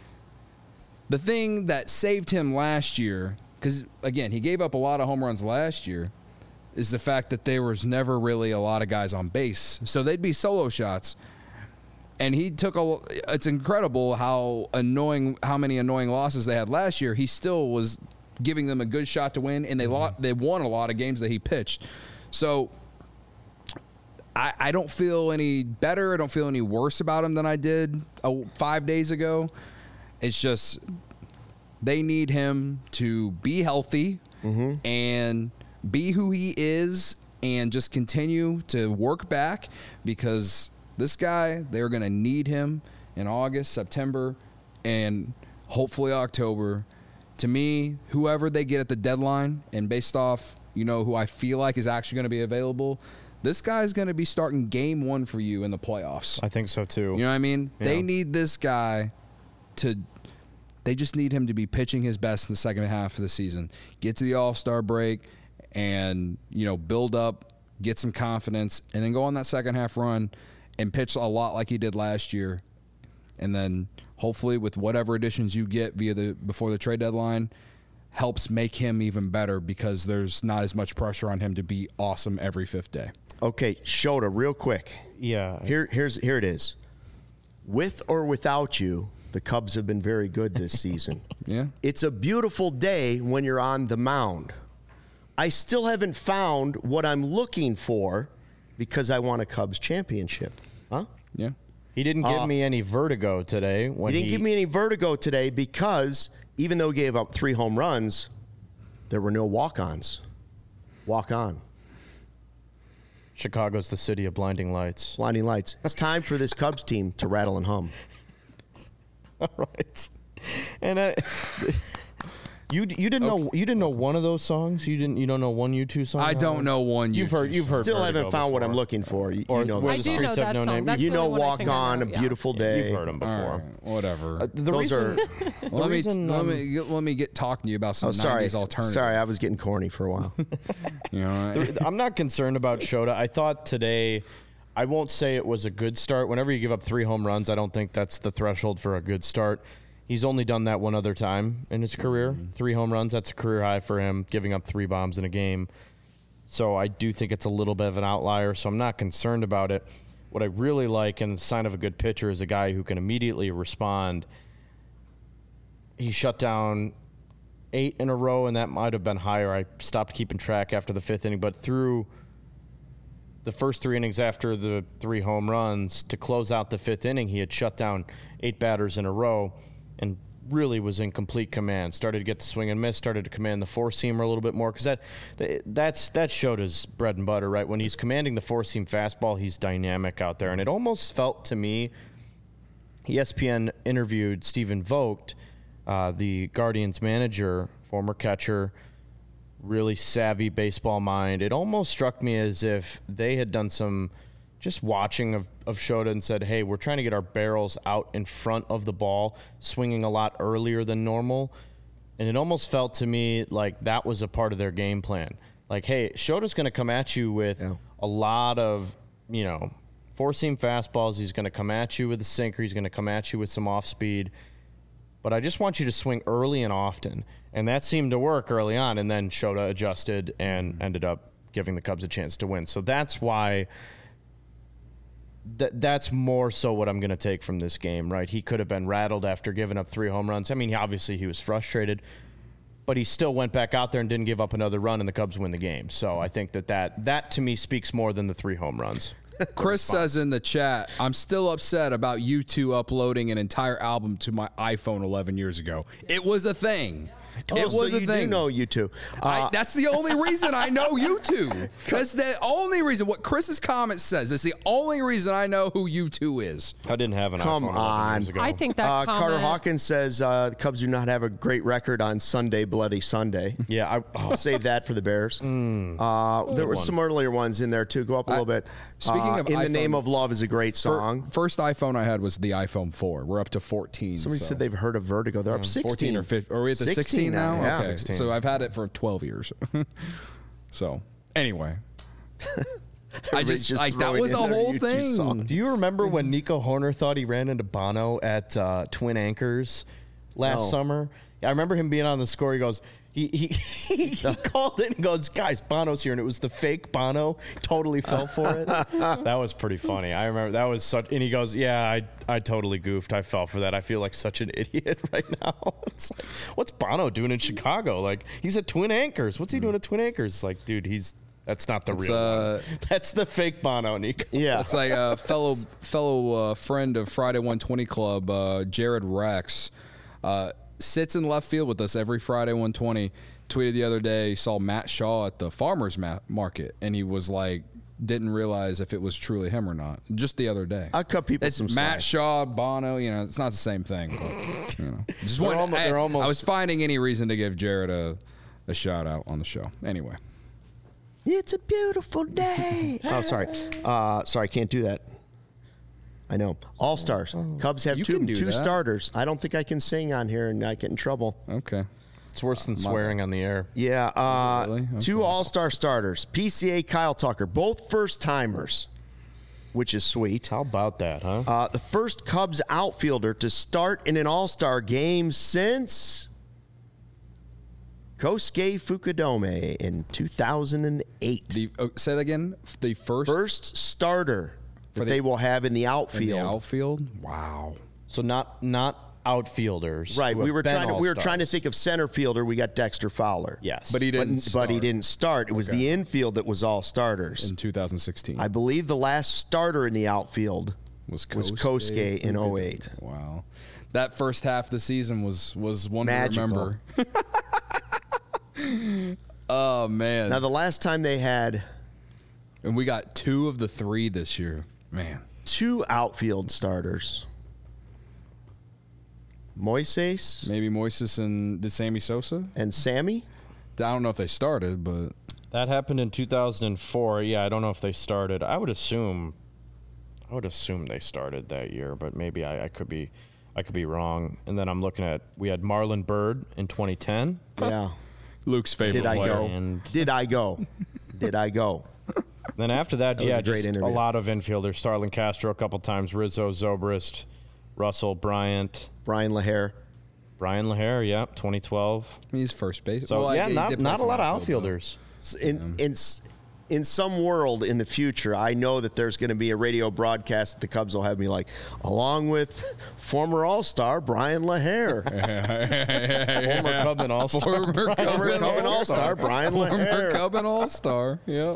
the thing that saved him last year, because again he gave up a lot of home runs last year, is the fact that there was never really a lot of guys on base, so they'd be solo shots. And he took a. It's incredible how annoying, how many annoying losses they had last year. He still was giving them a good shot to win, and they mm-hmm. lot, they won a lot of games that he pitched. So I, I don't feel any better. I don't feel any worse about him than I did oh, five days ago. It's just they need him to be healthy mm-hmm. and be who he is and just continue to work back, because this guy, they're going to need him in August, September, and hopefully October. To me, whoever they get at the deadline, and based off, you know, who I feel like is actually going to be available, this guy's going to be starting game one for you in the playoffs. I think so, too. You know what I mean? Yeah. They need this guy to – they just need him to be pitching his best in the second half of the season. Get to the All-Star break and, you know, build up, get some confidence, and then go on that second half run and pitch a lot like he did last year. And then hopefully with whatever additions you get via the before the trade deadline helps make him even better, because there's not as much pressure on him to be awesome every fifth day. Okay, Shota, real quick. Yeah. Here, here's here it is. With or without you, the Cubs have been very good this season. Yeah. It's a beautiful day when you're on the mound. I still haven't found what I'm looking for because I want a Cubs championship. Huh? Yeah. He didn't give Uh, me any vertigo today. When He didn't he, give me any vertigo today because even though he gave up three home runs, there were no walk-ons. Walk on. Chicago's the city of blinding lights. Blinding lights. It's time for this Cubs team to rattle and hum. All right. And I, you you didn't know you didn't know one of those songs. You didn't you don't know one U two song. I don't know one. You've U two heard you've song. heard. Still Vertigo haven't found before. what I'm looking for. You, Or you know, where I the do streets know have that no song. name. That's you the know only one I Walk think I On, know, A yeah. Beautiful Yeah, Day. you've heard them before. All right, whatever. Uh, the Those reason, are- the let me reason, let um, me let me get talking to you about some Oh, sorry. nineties alternative. Sorry, I was getting corny for a while. You know, right? I'm not concerned about Shota. I thought today, I won't say it was a good start. Whenever you give up three home runs, I don't think that's the threshold for a good start. He's only done that one other time in his career. Mm-hmm. Three home runs, that's a career high for him, giving up three bombs in a game. So I do think it's a little bit of an outlier, so I'm not concerned about it. What I really like, and the sign of a good pitcher, is a guy who can immediately respond. He shut down eight in a row, and that might have been higher. I stopped keeping track after the fifth inning, but through the first three innings after the three home runs, to close out the fifth inning, he had shut down eight batters in a row and really was in complete command. Started to get the swing and miss, started to command the four-seamer a little bit more, because that, that's, that showed his bread and butter, right? When he's commanding the four-seam fastball, he's dynamic out there. And it almost felt to me, E S P N interviewed Stephen Vogt, uh, the Guardians manager, former catcher, really savvy baseball mind. It almost struck me as if they had done some just watching of, of Shota and said, hey, we're trying to get our barrels out in front of the ball, swinging a lot earlier than normal. And it almost felt to me like that was a part of their game plan. Like, hey, Shota's going to come at you with Yeah. a lot of, you know, four-seam fastballs. He's going to come at you with a sinker. He's going to come at you with some off-speed. But I just want you to swing early and often. And that seemed to work early on. And then Shota adjusted and ended up giving the Cubs a chance to win. So that's why th- that's more so what I'm going to take from this game, right? He could have been rattled after giving up three home runs. I mean, obviously he was frustrated, but he still went back out there and didn't give up another run, and the Cubs win the game. So I think that that, that to me speaks more than the three home runs. Chris says in the chat, I'm still upset about U two uploading an entire album to my iPhone eleven years ago. It was a thing. Oh, it was so a you thing. do know you two. I, Uh, that's the only reason I know U two. That's the only reason. What Chris's comment says is the only reason I know who U two is. I didn't have an Come iPhone eleven on. years ago. I think that uh, comment, Carter Hawkins says uh, the Cubs do not have a great record on Sunday, Bloody Sunday. Yeah, I, oh, I'll save that for the Bears. uh, there were one. some earlier ones in there, too. Go up a little bit. speaking Uh, of In the iPhone- Name of Love is a great Fir- song. First iPhone I had was the iPhone four. We're up to fourteen. Somebody so. said they've heard of Vertigo. They're up sixteen. fourteen or fifteen. Are we at the sixteen, sixteen now? now, yeah. Okay. sixteen. So I've had it for twelve years. So anyway, I Everybody's just, like that throwing was in a their whole U two thing. song. Do you remember when Nico Horner thought he ran into Bono at uh, Twin Anchors last No. summer? I remember him being on the score. He goes, He he, he, he called it and goes, guys, Bono's here, and it was the fake Bono. Totally fell for it. That was pretty funny. I remember that was such. And he goes, yeah, I I totally goofed. I fell for that. I feel like such an idiot right now. It's like, what's Bono doing in Chicago? Like, he's at Twin Anchors. What's he doing at Twin Anchors? It's like, dude, he's that's not the It's, real uh, one. That's the fake Bono, Nico. Yeah. It's like a fellow fellow uh, friend of Friday one twenty Club, uh, Jared Rex, uh, sits in left field with us every Friday one twenty. Tweeted the other day, he saw Matt Shaw at the farmer's ma- market, and he was like, didn't realize if it was truly him or not. Just the other day. I'll cut people It's some Matt slack. Shaw, Bono, you know, it's not the same thing. But, you know, just They're wanted- almo- I, they're almost- I was finding any reason to give Jared a, a shout out on the show. Anyway. It's a beautiful day. oh, sorry. Uh, sorry, can't do that. I know. All stars. Cubs have You two can do two that. starters. I don't think I can sing on here and not get in trouble. Okay. It's worse than swearing on the air. Yeah. Uh, Really? Okay. Two All Star starters. P C A Kyle Tucker, both first timers, which is sweet. How about that, huh? Uh, the first Cubs outfielder to start in an All Star game since Kosuke Fukudome in two thousand eight. The, oh, say that again. The first, First starter that the- they will have in the in outfield. the outfield. Wow. So not not outfielders. Right, who we have were been trying to we were all-stars. trying to think of center fielder. We got Dexter Fowler. Yes, But he but, didn't. but start he didn't start. It was Okay. the infield that was all starters. in two thousand sixteen. I believe the last starter in the outfield was was Kosuke in oh eight. Wow. That first half of the season was was one Magical. to remember. Oh man. Now the last time they had And we got two of the three this year. Man. two outfield starters, Moises Maybe Moises and did Sammy Sosa? and Sammy. I don't know if they started, but That happened in two thousand four. Yeah, I don't know if they started. I would assume, I would assume they started that year, but maybe I, I could be, I could be wrong. And then I'm looking at we had Marlon Byrd in twenty ten. Yeah. Luke's favorite Did I player. go? And- Did I go? Did I go? Then after that, That was yeah, a great just interview. a lot of infielders. Starlin Castro a couple times, Rizzo, Zobrist, Russell, Bryant, Brian LaHare. Brian LaHare. Yep, twenty twelve. He's first base. So Well, I- yeah, he not did play not a some lot of outfield, though. outfielders. In in s- in some world in the future, I know that there's going to be a radio broadcast that the Cubs will have me like, along with former All Star Brian LaHare, Former Cub and All-Star. Former former Cub Cub and All Star Brian Former LaHare. Cub and All Star. Yep.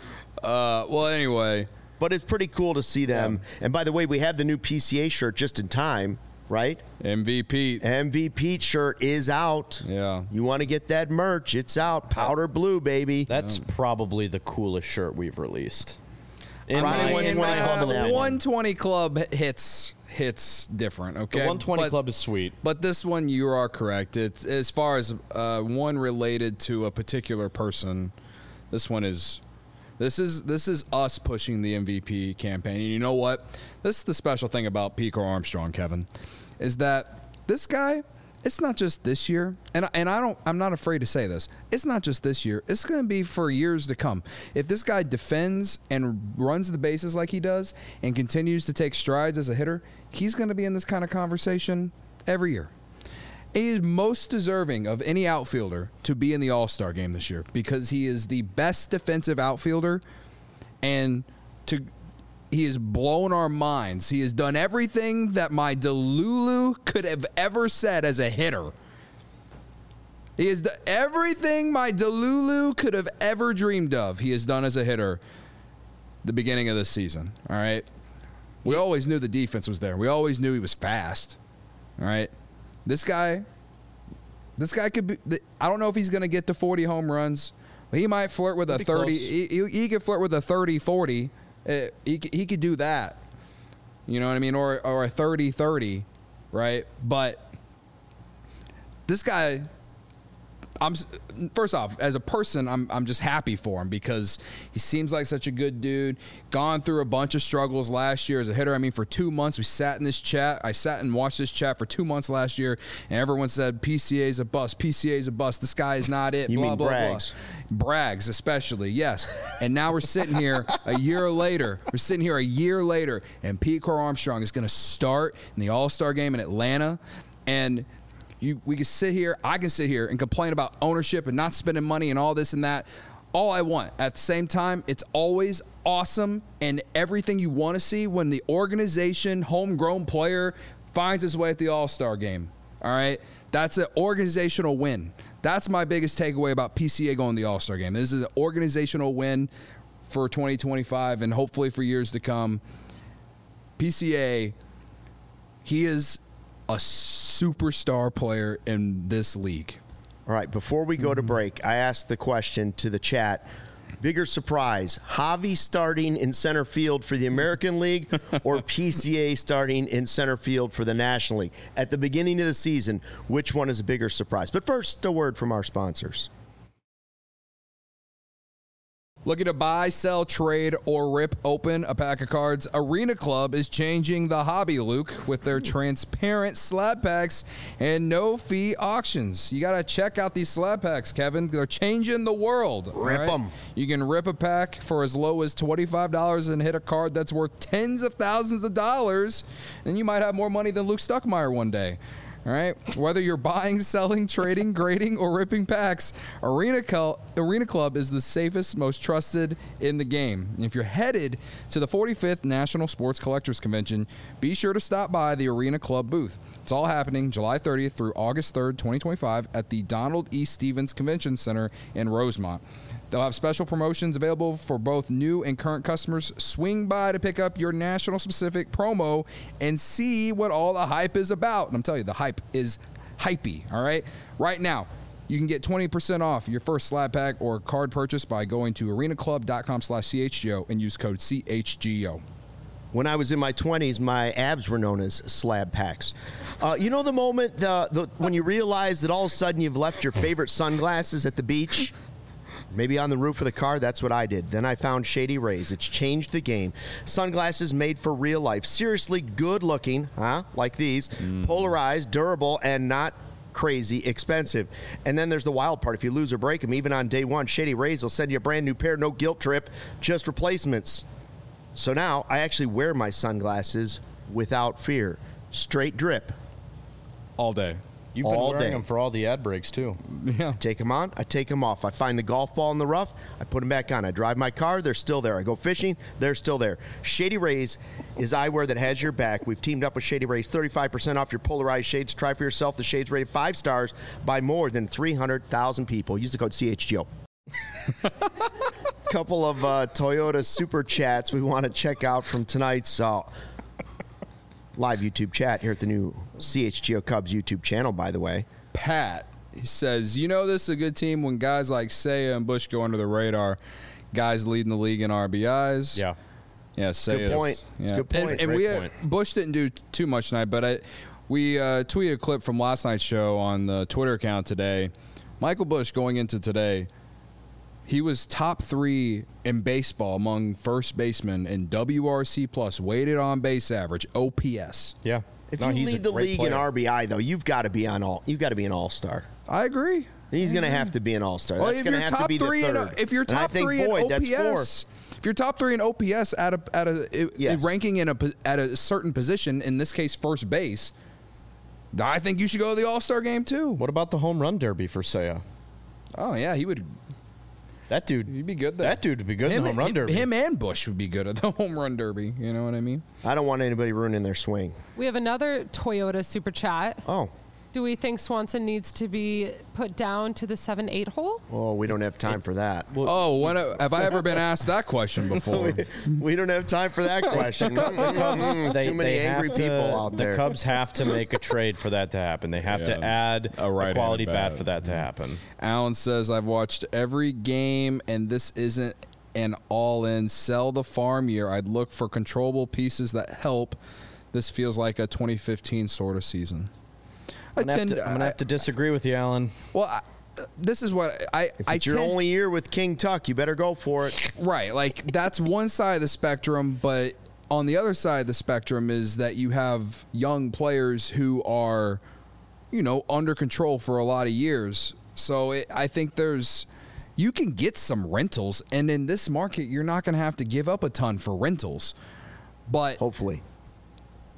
Uh, well, anyway, But it's pretty cool to see them. And by the way, we have the new P C A shirt just in time, right? M V P. M V P shirt is out. Yeah. You want to get that merch? It's out. Powder blue, baby. That's probably the coolest shirt we've released. In Friday my- one And, twenty uh, Club on that one. one twenty Club hits hits different. Okay. The one twenty But- Club is sweet. But this one, you are correct. It's as far as uh, one related to a particular person. This one is, this is this is us pushing the M V P campaign. And you know what? This is the special thing about Pico Armstrong, Kevin, is that this guy. It's not just this year, and and I don't. I'm not afraid to say this. It's not just this year. It's going to be for years to come. If this guy defends and runs the bases like he does, and continues to take strides as a hitter, he's going to be in this kind of conversation every year. He is most deserving of any outfielder to be in the All-Star game this year because he is the best defensive outfielder, and to he has blown our minds. He has done everything that my Delulu could have ever said as a hitter. He has done everything my Delulu could have ever dreamed of. He has done as a hitter the beginning of this season. All right. We always knew the defense was there. We always knew he was fast. All right. This guy, this guy could be. I don't know if he's going to get to forty home runs. But he might flirt with a Be thirty. close. He, he, he could flirt with a thirty forty. Uh, he, c- he could do that. You know what I mean? Or, or a thirty thirty, right? But this guy, I'm s- first off, as a person, I'm I'm just happy for him because he seems like such a good dude. Gone through a bunch of struggles last year as a hitter. I mean, for two months we sat in this chat. I sat and watched this chat for two months last year, and everyone said P C A is a bust. P C A is a bust. This guy is not it. You blah mean blah Braggs. blah. Braggs, especially, yes. And now we're sitting here a year later. We're sitting here a year later, and Pete Crow Armstrong is going to start in the All-Star game in Atlanta, and You, we can sit here, I can sit here and complain about ownership and not spending money and all this and that. All I want. At the same time, it's always awesome and everything you want to see when the organization, homegrown player, finds his way at the All-Star game. All right? That's an organizational win. That's my biggest takeaway about P C A going to the All-Star game. This is an organizational win for twenty twenty-five and hopefully for years to come. P C A, he is a superstar player in this league. All right, before we go to break, I asked the question to the chat. Bigger surprise, Javi starting in center field for the American League or P C A starting in center field for the National League? At the beginning of the season, which one is a bigger surprise? But first, a word from our sponsors. Looking to buy, sell, trade, or rip open a pack of cards? Arena Club is changing the hobby, Luke, with their transparent slab packs and no-fee auctions. You got to check out these slab packs, Kevin. They're changing the world. Rip them. Right? You can rip a pack for as low as twenty-five dollars and hit a card that's worth tens of thousands of dollars, and you might have more money than Luke Stuckmeyer one day. All right. Whether you're buying, selling, trading, grading, or ripping packs, Arena, Cl- Arena Club is the safest, most trusted in the game. And if you're headed to the forty-fifth National Sports Collectors Convention, be sure to stop by the Arena Club booth. It's all happening July thirtieth through August third, twenty twenty-five at the Donald E. Stevens Convention Center in Rosemont. They'll have special promotions available for both new and current customers. Swing by to pick up your national-specific promo and see what all the hype is about. And I'm telling you, the hype is hypey, all right? Right now, you can get twenty percent off your first slab pack or card purchase by going to arenaclub.com slash CHGO and use code C H G O. When I was in my twenties, my abs were known as slab packs. Uh, you know the moment the, the, when you realize that all of a sudden you've left your favorite sunglasses at the beach? Maybe on the roof of the car, that's what I did. Then I found Shady Rays. It's changed the game. Sunglasses made for real life. Seriously good looking, huh? Like these. Mm. Polarized, durable, and not crazy expensive. And then there's the wild part. If you lose or break them, even on day one, Shady Rays will send you a brand new pair. No guilt trip, just replacements. So now I actually wear my sunglasses without fear. Straight drip. All day. You've been all wearing day. them for all the ad breaks, too. Yeah. Take them on, I take them off. I find the golf ball in the rough, I put them back on. I drive my car, they're still there. I go fishing, they're still there. Shady Rays is eyewear that has your back. We've teamed up with Shady Rays, thirty-five percent off your polarized shades. Try for yourself. The shades rated five stars by more than three hundred thousand people. Use the code C H G O. Couple of uh, Toyota Super Chats we want to check out from tonight's uh, live YouTube chat here at the new C H G O Cubs YouTube channel, by the way. Pat, he says, you know this is a good team when guys like Seiya and Bush go under the radar. Guys leading the league in R B Is. Yeah. Yeah, Seiya. Good point. Yeah. It's a good point. And, and Great we uh, point. Bush didn't do t- too much tonight, but I, we uh, tweeted a clip from last night's show on the Twitter account today. Michael Bush going into today, he was top three in baseball among first basemen in W R C plus, weighted on base average, O P S. Yeah. If No, you he's a lead the great league in player. R B I, though, you've got to be on all. You've got to be an all-star. I agree. He's going to have to be an all-star. Well, That's if going you're to have to top be the three, in, third. if you're And I top think three Boyd, in that's O P S, fourth. if you're top three in O P S at a at a, Yes. a ranking in a po- at a certain position, in this case first base, I think you should go to the All-Star game too. What about the home run derby for Seiya? Oh yeah, he would. That dude. He'd be good there. That dude would be good him, in the home run derby. Him and Bush would be good at the home run derby. You know what I mean? I don't want anybody ruining their swing. We have another Toyota Super Chat. Oh, Do we think Swanson needs to be put down to the seven eight hole? well, we don't have time for that. Oh, when have I ever been asked that question before? We don't have time for that question. Mm, They- Too many they angry have to- people out there. The Cubs have to make a trade for that to happen. They have to Yeah. add A a, right-handed quality bat bat. for that to happen. Alan says, I've watched every game, and this isn't an all-in sell the farm year. I'd look for controllable pieces that help. This feels like a twenty fifteen sort of season. I I'm gonna, have tend to, I'm gonna I- have to disagree with you, Alan. Well, I, this is what I If I it's your tend- only year with King Tuck, you better go for it. Right, like that's one side of the spectrum, but on the other side of the spectrum is that you have young players who are, you know, under control for a lot of years. So it, I think there's, you can get some rentals, and in this market, you're not going to have to give up a ton for rentals. But Hopefully.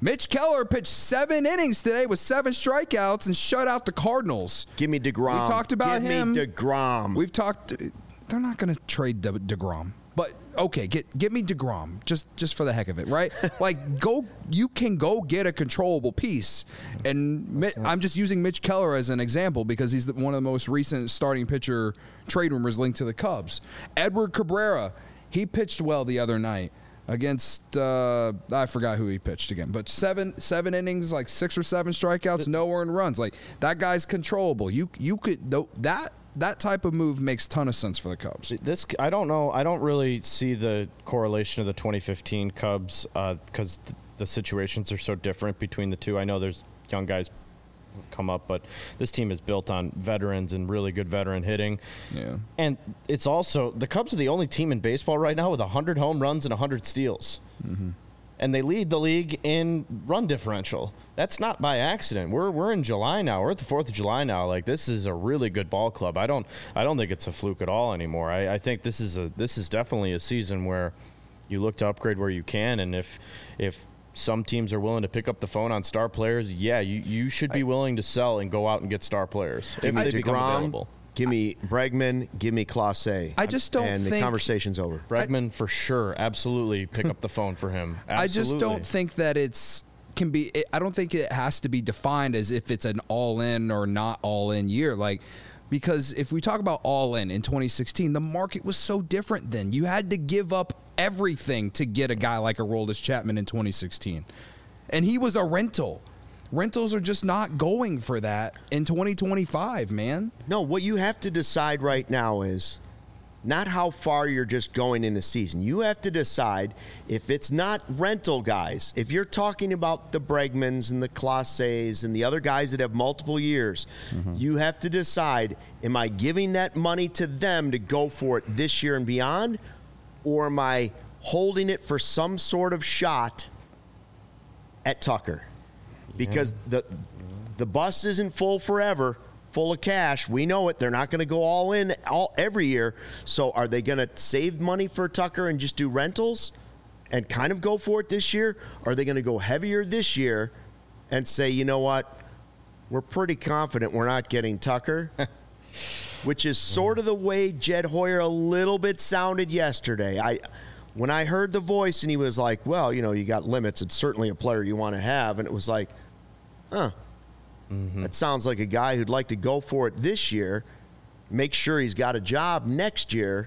Mitch Keller pitched seven innings today with seven strikeouts and shut out the Cardinals. Give me DeGrom. We talked about Give him. me DeGrom. We've talked. They're not going to trade De- DeGrom. But, okay, get give me DeGrom, just just for the heck of it, right? Like, go. You can go get a controllable piece. And Mi- I'm just using Mitch Keller as an example because he's the, one of the most recent starting pitcher trade rumors linked to the Cubs. Edward Cabrera, he pitched well the other night against, uh, I forgot who he pitched again, but seven seven innings, like six or seven strikeouts, no earned runs. Like, that guy's controllable. You, you could, that. That type of move makes ton of sense for the Cubs. This I don't know. I don't really see the correlation of the twenty fifteen Cubs because uh, th- the situations are so different between the two. I know there's young guys who've come up, but this team is built on veterans and really good veteran hitting. Yeah. And it's also the Cubs are the only team in baseball right now with one hundred home runs and one hundred steals. Mm-hmm. And they lead the league in run differential. That's not by accident. We're we're in July now. We're at the fourth of July now. Like, this is a really good ball club. I don't I don't think it's a fluke at all anymore. I, I think this is a this is definitely a season where you look to upgrade where you can, and if if some teams are willing to pick up the phone on star players, yeah, you, you should be willing to sell and go out and get star players if they become available. Give me Bregman. Give me Clase. I just don't and think... the conversation's over. Bregman, I, for sure. Absolutely pick up the phone for him. Absolutely. I just don't think that it's... can be. It, I don't think it has to be defined as if it's an all-in or not all-in year. Like, because if we talk about all-in in twenty sixteen, the market was so different then. You had to give up everything to get a guy like Aroldis Chapman in twenty sixteen. And he was a rental. Rentals are just not going for that in twenty twenty-five, man. No, what you have to decide right now is not how far you're just going in the season. You have to decide if it's not rental guys, if you're talking about the Bregmans and the Clases and the other guys that have multiple years, mm-hmm. you have to decide, am I giving that money to them to go for it this year and beyond, or am I holding it for some sort of shot at Tucker? Because the the bus isn't full forever, full of cash. We know it. They're not going to go all in all every year. So are they going to save money for Tucker and just do rentals and kind of go for it this year? Or are they going to go heavier this year and say, you know what, we're pretty confident we're not getting Tucker, which is sort of the way Jed Hoyer a little bit sounded yesterday. I when I heard the voice and he was like, well, you know, you got limits. It's certainly a player you want to have. And it was like, huh, mm-hmm. that sounds like a guy who'd like to go for it this year, make sure he's got a job next year,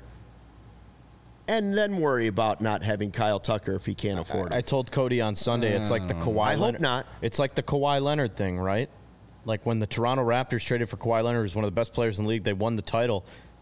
and then worry about not having Kyle Tucker if he can't afford it. I told Cody on Sunday, it's like the Kawhi I Leonard. hope not. It's like the Kawhi Leonard thing, right? Like when the Toronto Raptors traded for Kawhi Leonard, who's one of the best players in the league, they won the title.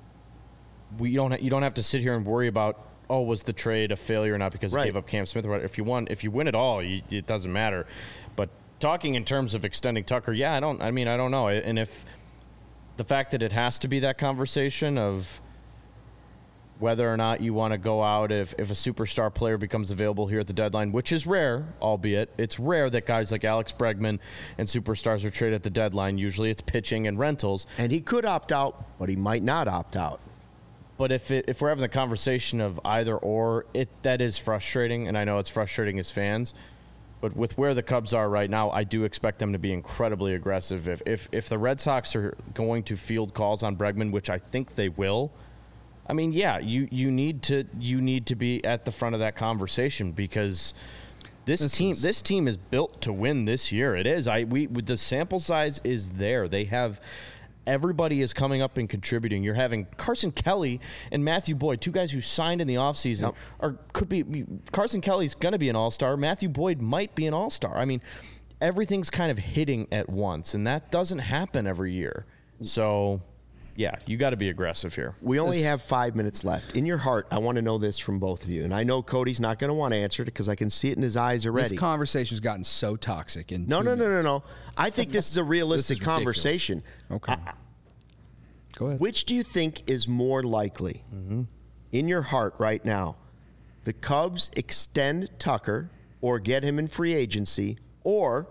We don't. You don't have to sit here and worry about, oh, was the trade a failure or not because right. he gave up Cam Smith or whatever. If you won, if you win it all, you, it doesn't matter. But talking in terms of extending Tucker, yeah, I don't. I mean, I don't know. And if the fact that it has to be that conversation of whether or not you want to go out if, if a superstar player becomes available here at the deadline, which is rare, albeit it's rare that guys like Alex Bregman and superstars are traded at the deadline. Usually it's pitching and rentals. And he could opt out, but he might not opt out. But if it, if we're having the conversation of either or, it that is frustrating, and I know it's frustrating as fans. But with where the Cubs are right now, I do expect them to be incredibly aggressive. If if if the Red Sox are going to field calls on Bregman, which I think they will, I mean, yeah, you, you need to you need to be at the front of that conversation because this, this team is, this team is built to win this year. It is. I we the sample size is there. They have. Everybody is coming up and contributing. You're having Carson Kelly and Matthew Boyd, two guys who signed in the offseason, yep. or could be Carson Kelly's going to be an all-star. Matthew Boyd might be an all-star. I mean, everything's kind of hitting at once, and that doesn't happen every year. So, yeah, you got to be aggressive here. We only this, have five minutes left. In your heart, I want to know this from both of you, and I know Cody's not going to want to answer it because I can see it in his eyes already. This conversation's gotten so toxic. In no, no, no, no, no. I think this is a realistic is conversation. Okay. I, Go ahead. Which do you think is more likely, mm-hmm. in your heart right now, the Cubs extend Tucker or get him in free agency, or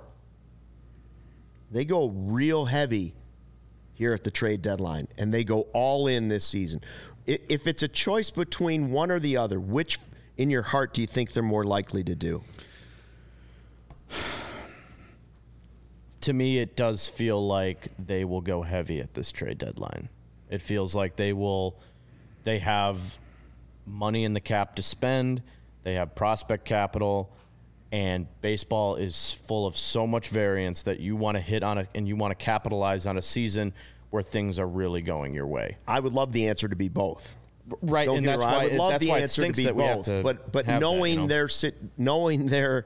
they go real heavy here at the trade deadline and they go all in this season? If it's a choice between one or the other, which in your heart do you think they're more likely to do? to me, it does feel like they will go heavy at this trade deadline. It feels like they will, they have money in the cap to spend. They have prospect capital, and baseball is full of so much variance that you want to hit on it and you want to capitalize on a season where things are really going your way. I would love the answer to be both. Right, Don't and get me that's wrong. why I would it, love that's the why it answer to stinks be that we have both. to But but have knowing that, you know? their sit, knowing their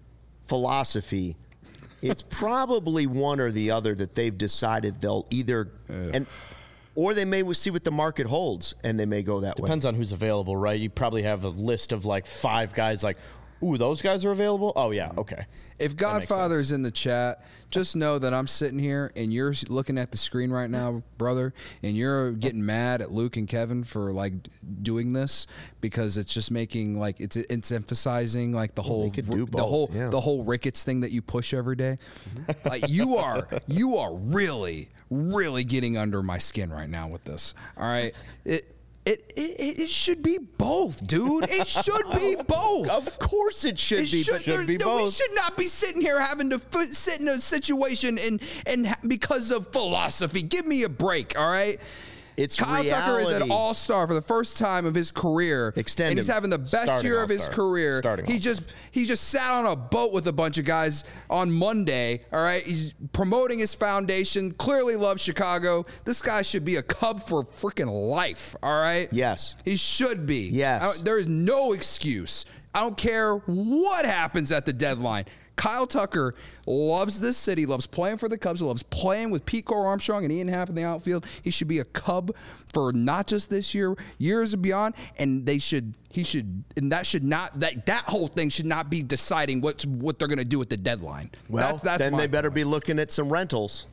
philosophy, it's probably one or the other that they've decided they'll either and or they may see what the market holds and they may go that way. Depends on who's available, right? You probably have a list of like five guys like, ooh, those guys are available? Oh, yeah, okay. If Godfather's in the chat, just know that I'm sitting here and you're looking at the screen right now, brother, and you're getting mad at Luke and Kevin for like doing this because it's just making like it's it's emphasizing like the Well, whole they could do the both, whole yeah. the whole Ricketts thing that you push every day. Like you are you are really really getting under my skin right now with this. All right, it. It, it it should be both, dude. It should be both. Of course it should It be. should, but should there- be there- We both. should not be sitting here having to f- sit in a situation and and ha- because of philosophy. Give me a break, all right? It's Kyle Tucker is an reality. all-star for the first time of his career. Extend and he's him. having the best Starting year of his all-star. career. Starting he all-star. just he just sat on a boat with a bunch of guys on Monday. All right, he's promoting his foundation. Clearly loves Chicago. This guy should be a Cub for freaking life. All right. Yes. He should be. Yes. I don't- there is no excuse. I don't care what happens at the deadline. Kyle Tucker loves this city, loves playing for the Cubs, loves playing with Pete Cole Armstrong and Ian Happ in the outfield. He should be a Cub for not just this year, years and beyond. And they should, he should, and that should not, that that whole thing should not be deciding what's what they're going to do at the deadline. Well, that's, that's then my they better point. be looking at some rentals.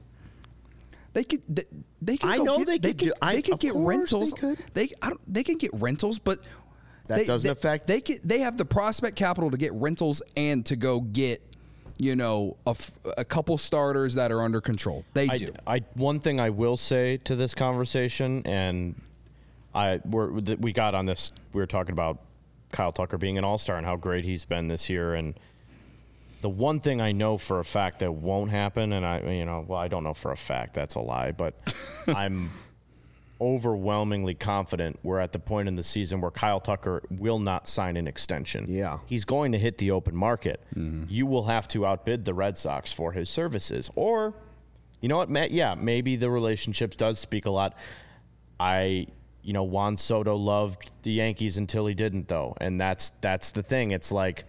They could. They, they could I go know get, they they could could. do- I- They could of get course rentals. they could. They. I don't. They can get rentals, but That they- doesn't they- affect- They could. They have the prospect capital to get rentals and to go get, you know, a, f- a couple starters that are under control. They I, do. I one thing I will say to this conversation, and I we're, we got on this. We were talking about Kyle Tucker being an all-star and how great he's been this year. And the one thing I know for a fact that won't happen, and I, you know, well, I don't know for a fact, that's a lie, but I'm overwhelmingly confident we're at the point in the season where Kyle Tucker will not sign an extension. Yeah. He's going to hit the open market. You will have to outbid the Red Sox for his services. Or, you know what, Matt? Yeah, maybe the relationship does speak a lot. I, you know, Juan Soto loved the Yankees until he didn't, though. And that's that's the thing. It's like,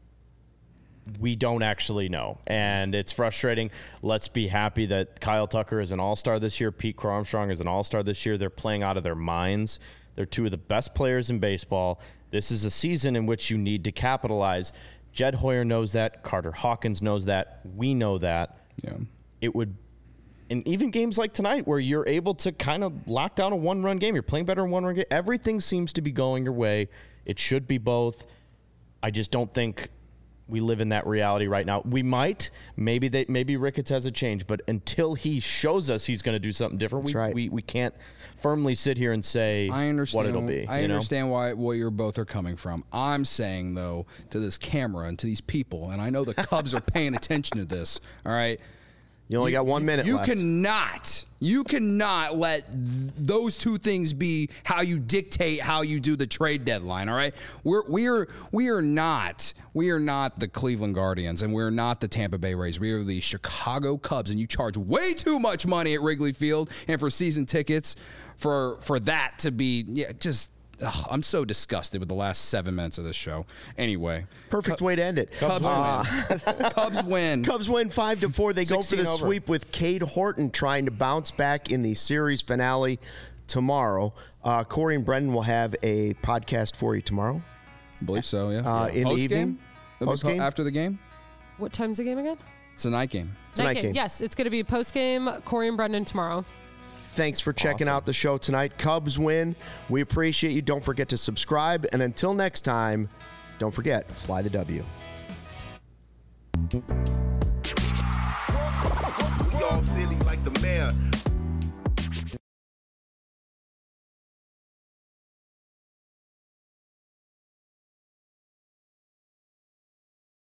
we don't actually know. And it's frustrating. Let's be happy that Kyle Tucker is an all-star this year. Pete Crow Armstrong is an all-star this year. They're playing out of their minds. They're two of the best players in baseball. This is a season in which you need to capitalize. Jed Hoyer knows that. Carter Hawkins knows that. We know that. Yeah. It would, and even games like tonight where you're able to kind of lock down a one-run game. You're playing better in one-run game. Everything seems to be going your way. It should be both. I just don't think we live in that reality right now. We might, maybe they, maybe Ricketts has a change, but until he shows us he's going to do something different, That's we, right. we we can't firmly sit here and say I understand what it'll be. I you know? understand why where you're both are coming from. I'm saying though to this camera and to these people, and I know the Cubs are paying attention to this. All right. You only got one minute You left. cannot, you cannot let th- those two things be how you dictate how you do the trade deadline. All right, we're we are we are not we are not the Cleveland Guardians, and we're not the Tampa Bay Rays. We are the Chicago Cubs, and you charge way too much money at Wrigley Field and for season tickets for for that to be yeah just. Ugh, I'm so disgusted with the last seven minutes of this show. Anyway, Perfect way to end it. Cubs win. Cubs win. Cubs win five to four. They go for the sixteen over. sweep with Cade Horton trying to bounce back in the series finale tomorrow. Uh, Corey and Brendan will have a podcast for you tomorrow. I believe so. Yeah. Uh, in the Post evening? game. It'll be Post po- game? after the game. What time's the game again? It's a night game. It's a night game. Yes, it's going to be post game. Corey and Brendan tomorrow. Thanks for checking Awesome. out the show tonight. Cubs win. We appreciate you. Don't forget to subscribe. And until next time, don't forget, fly the W. We all silly like the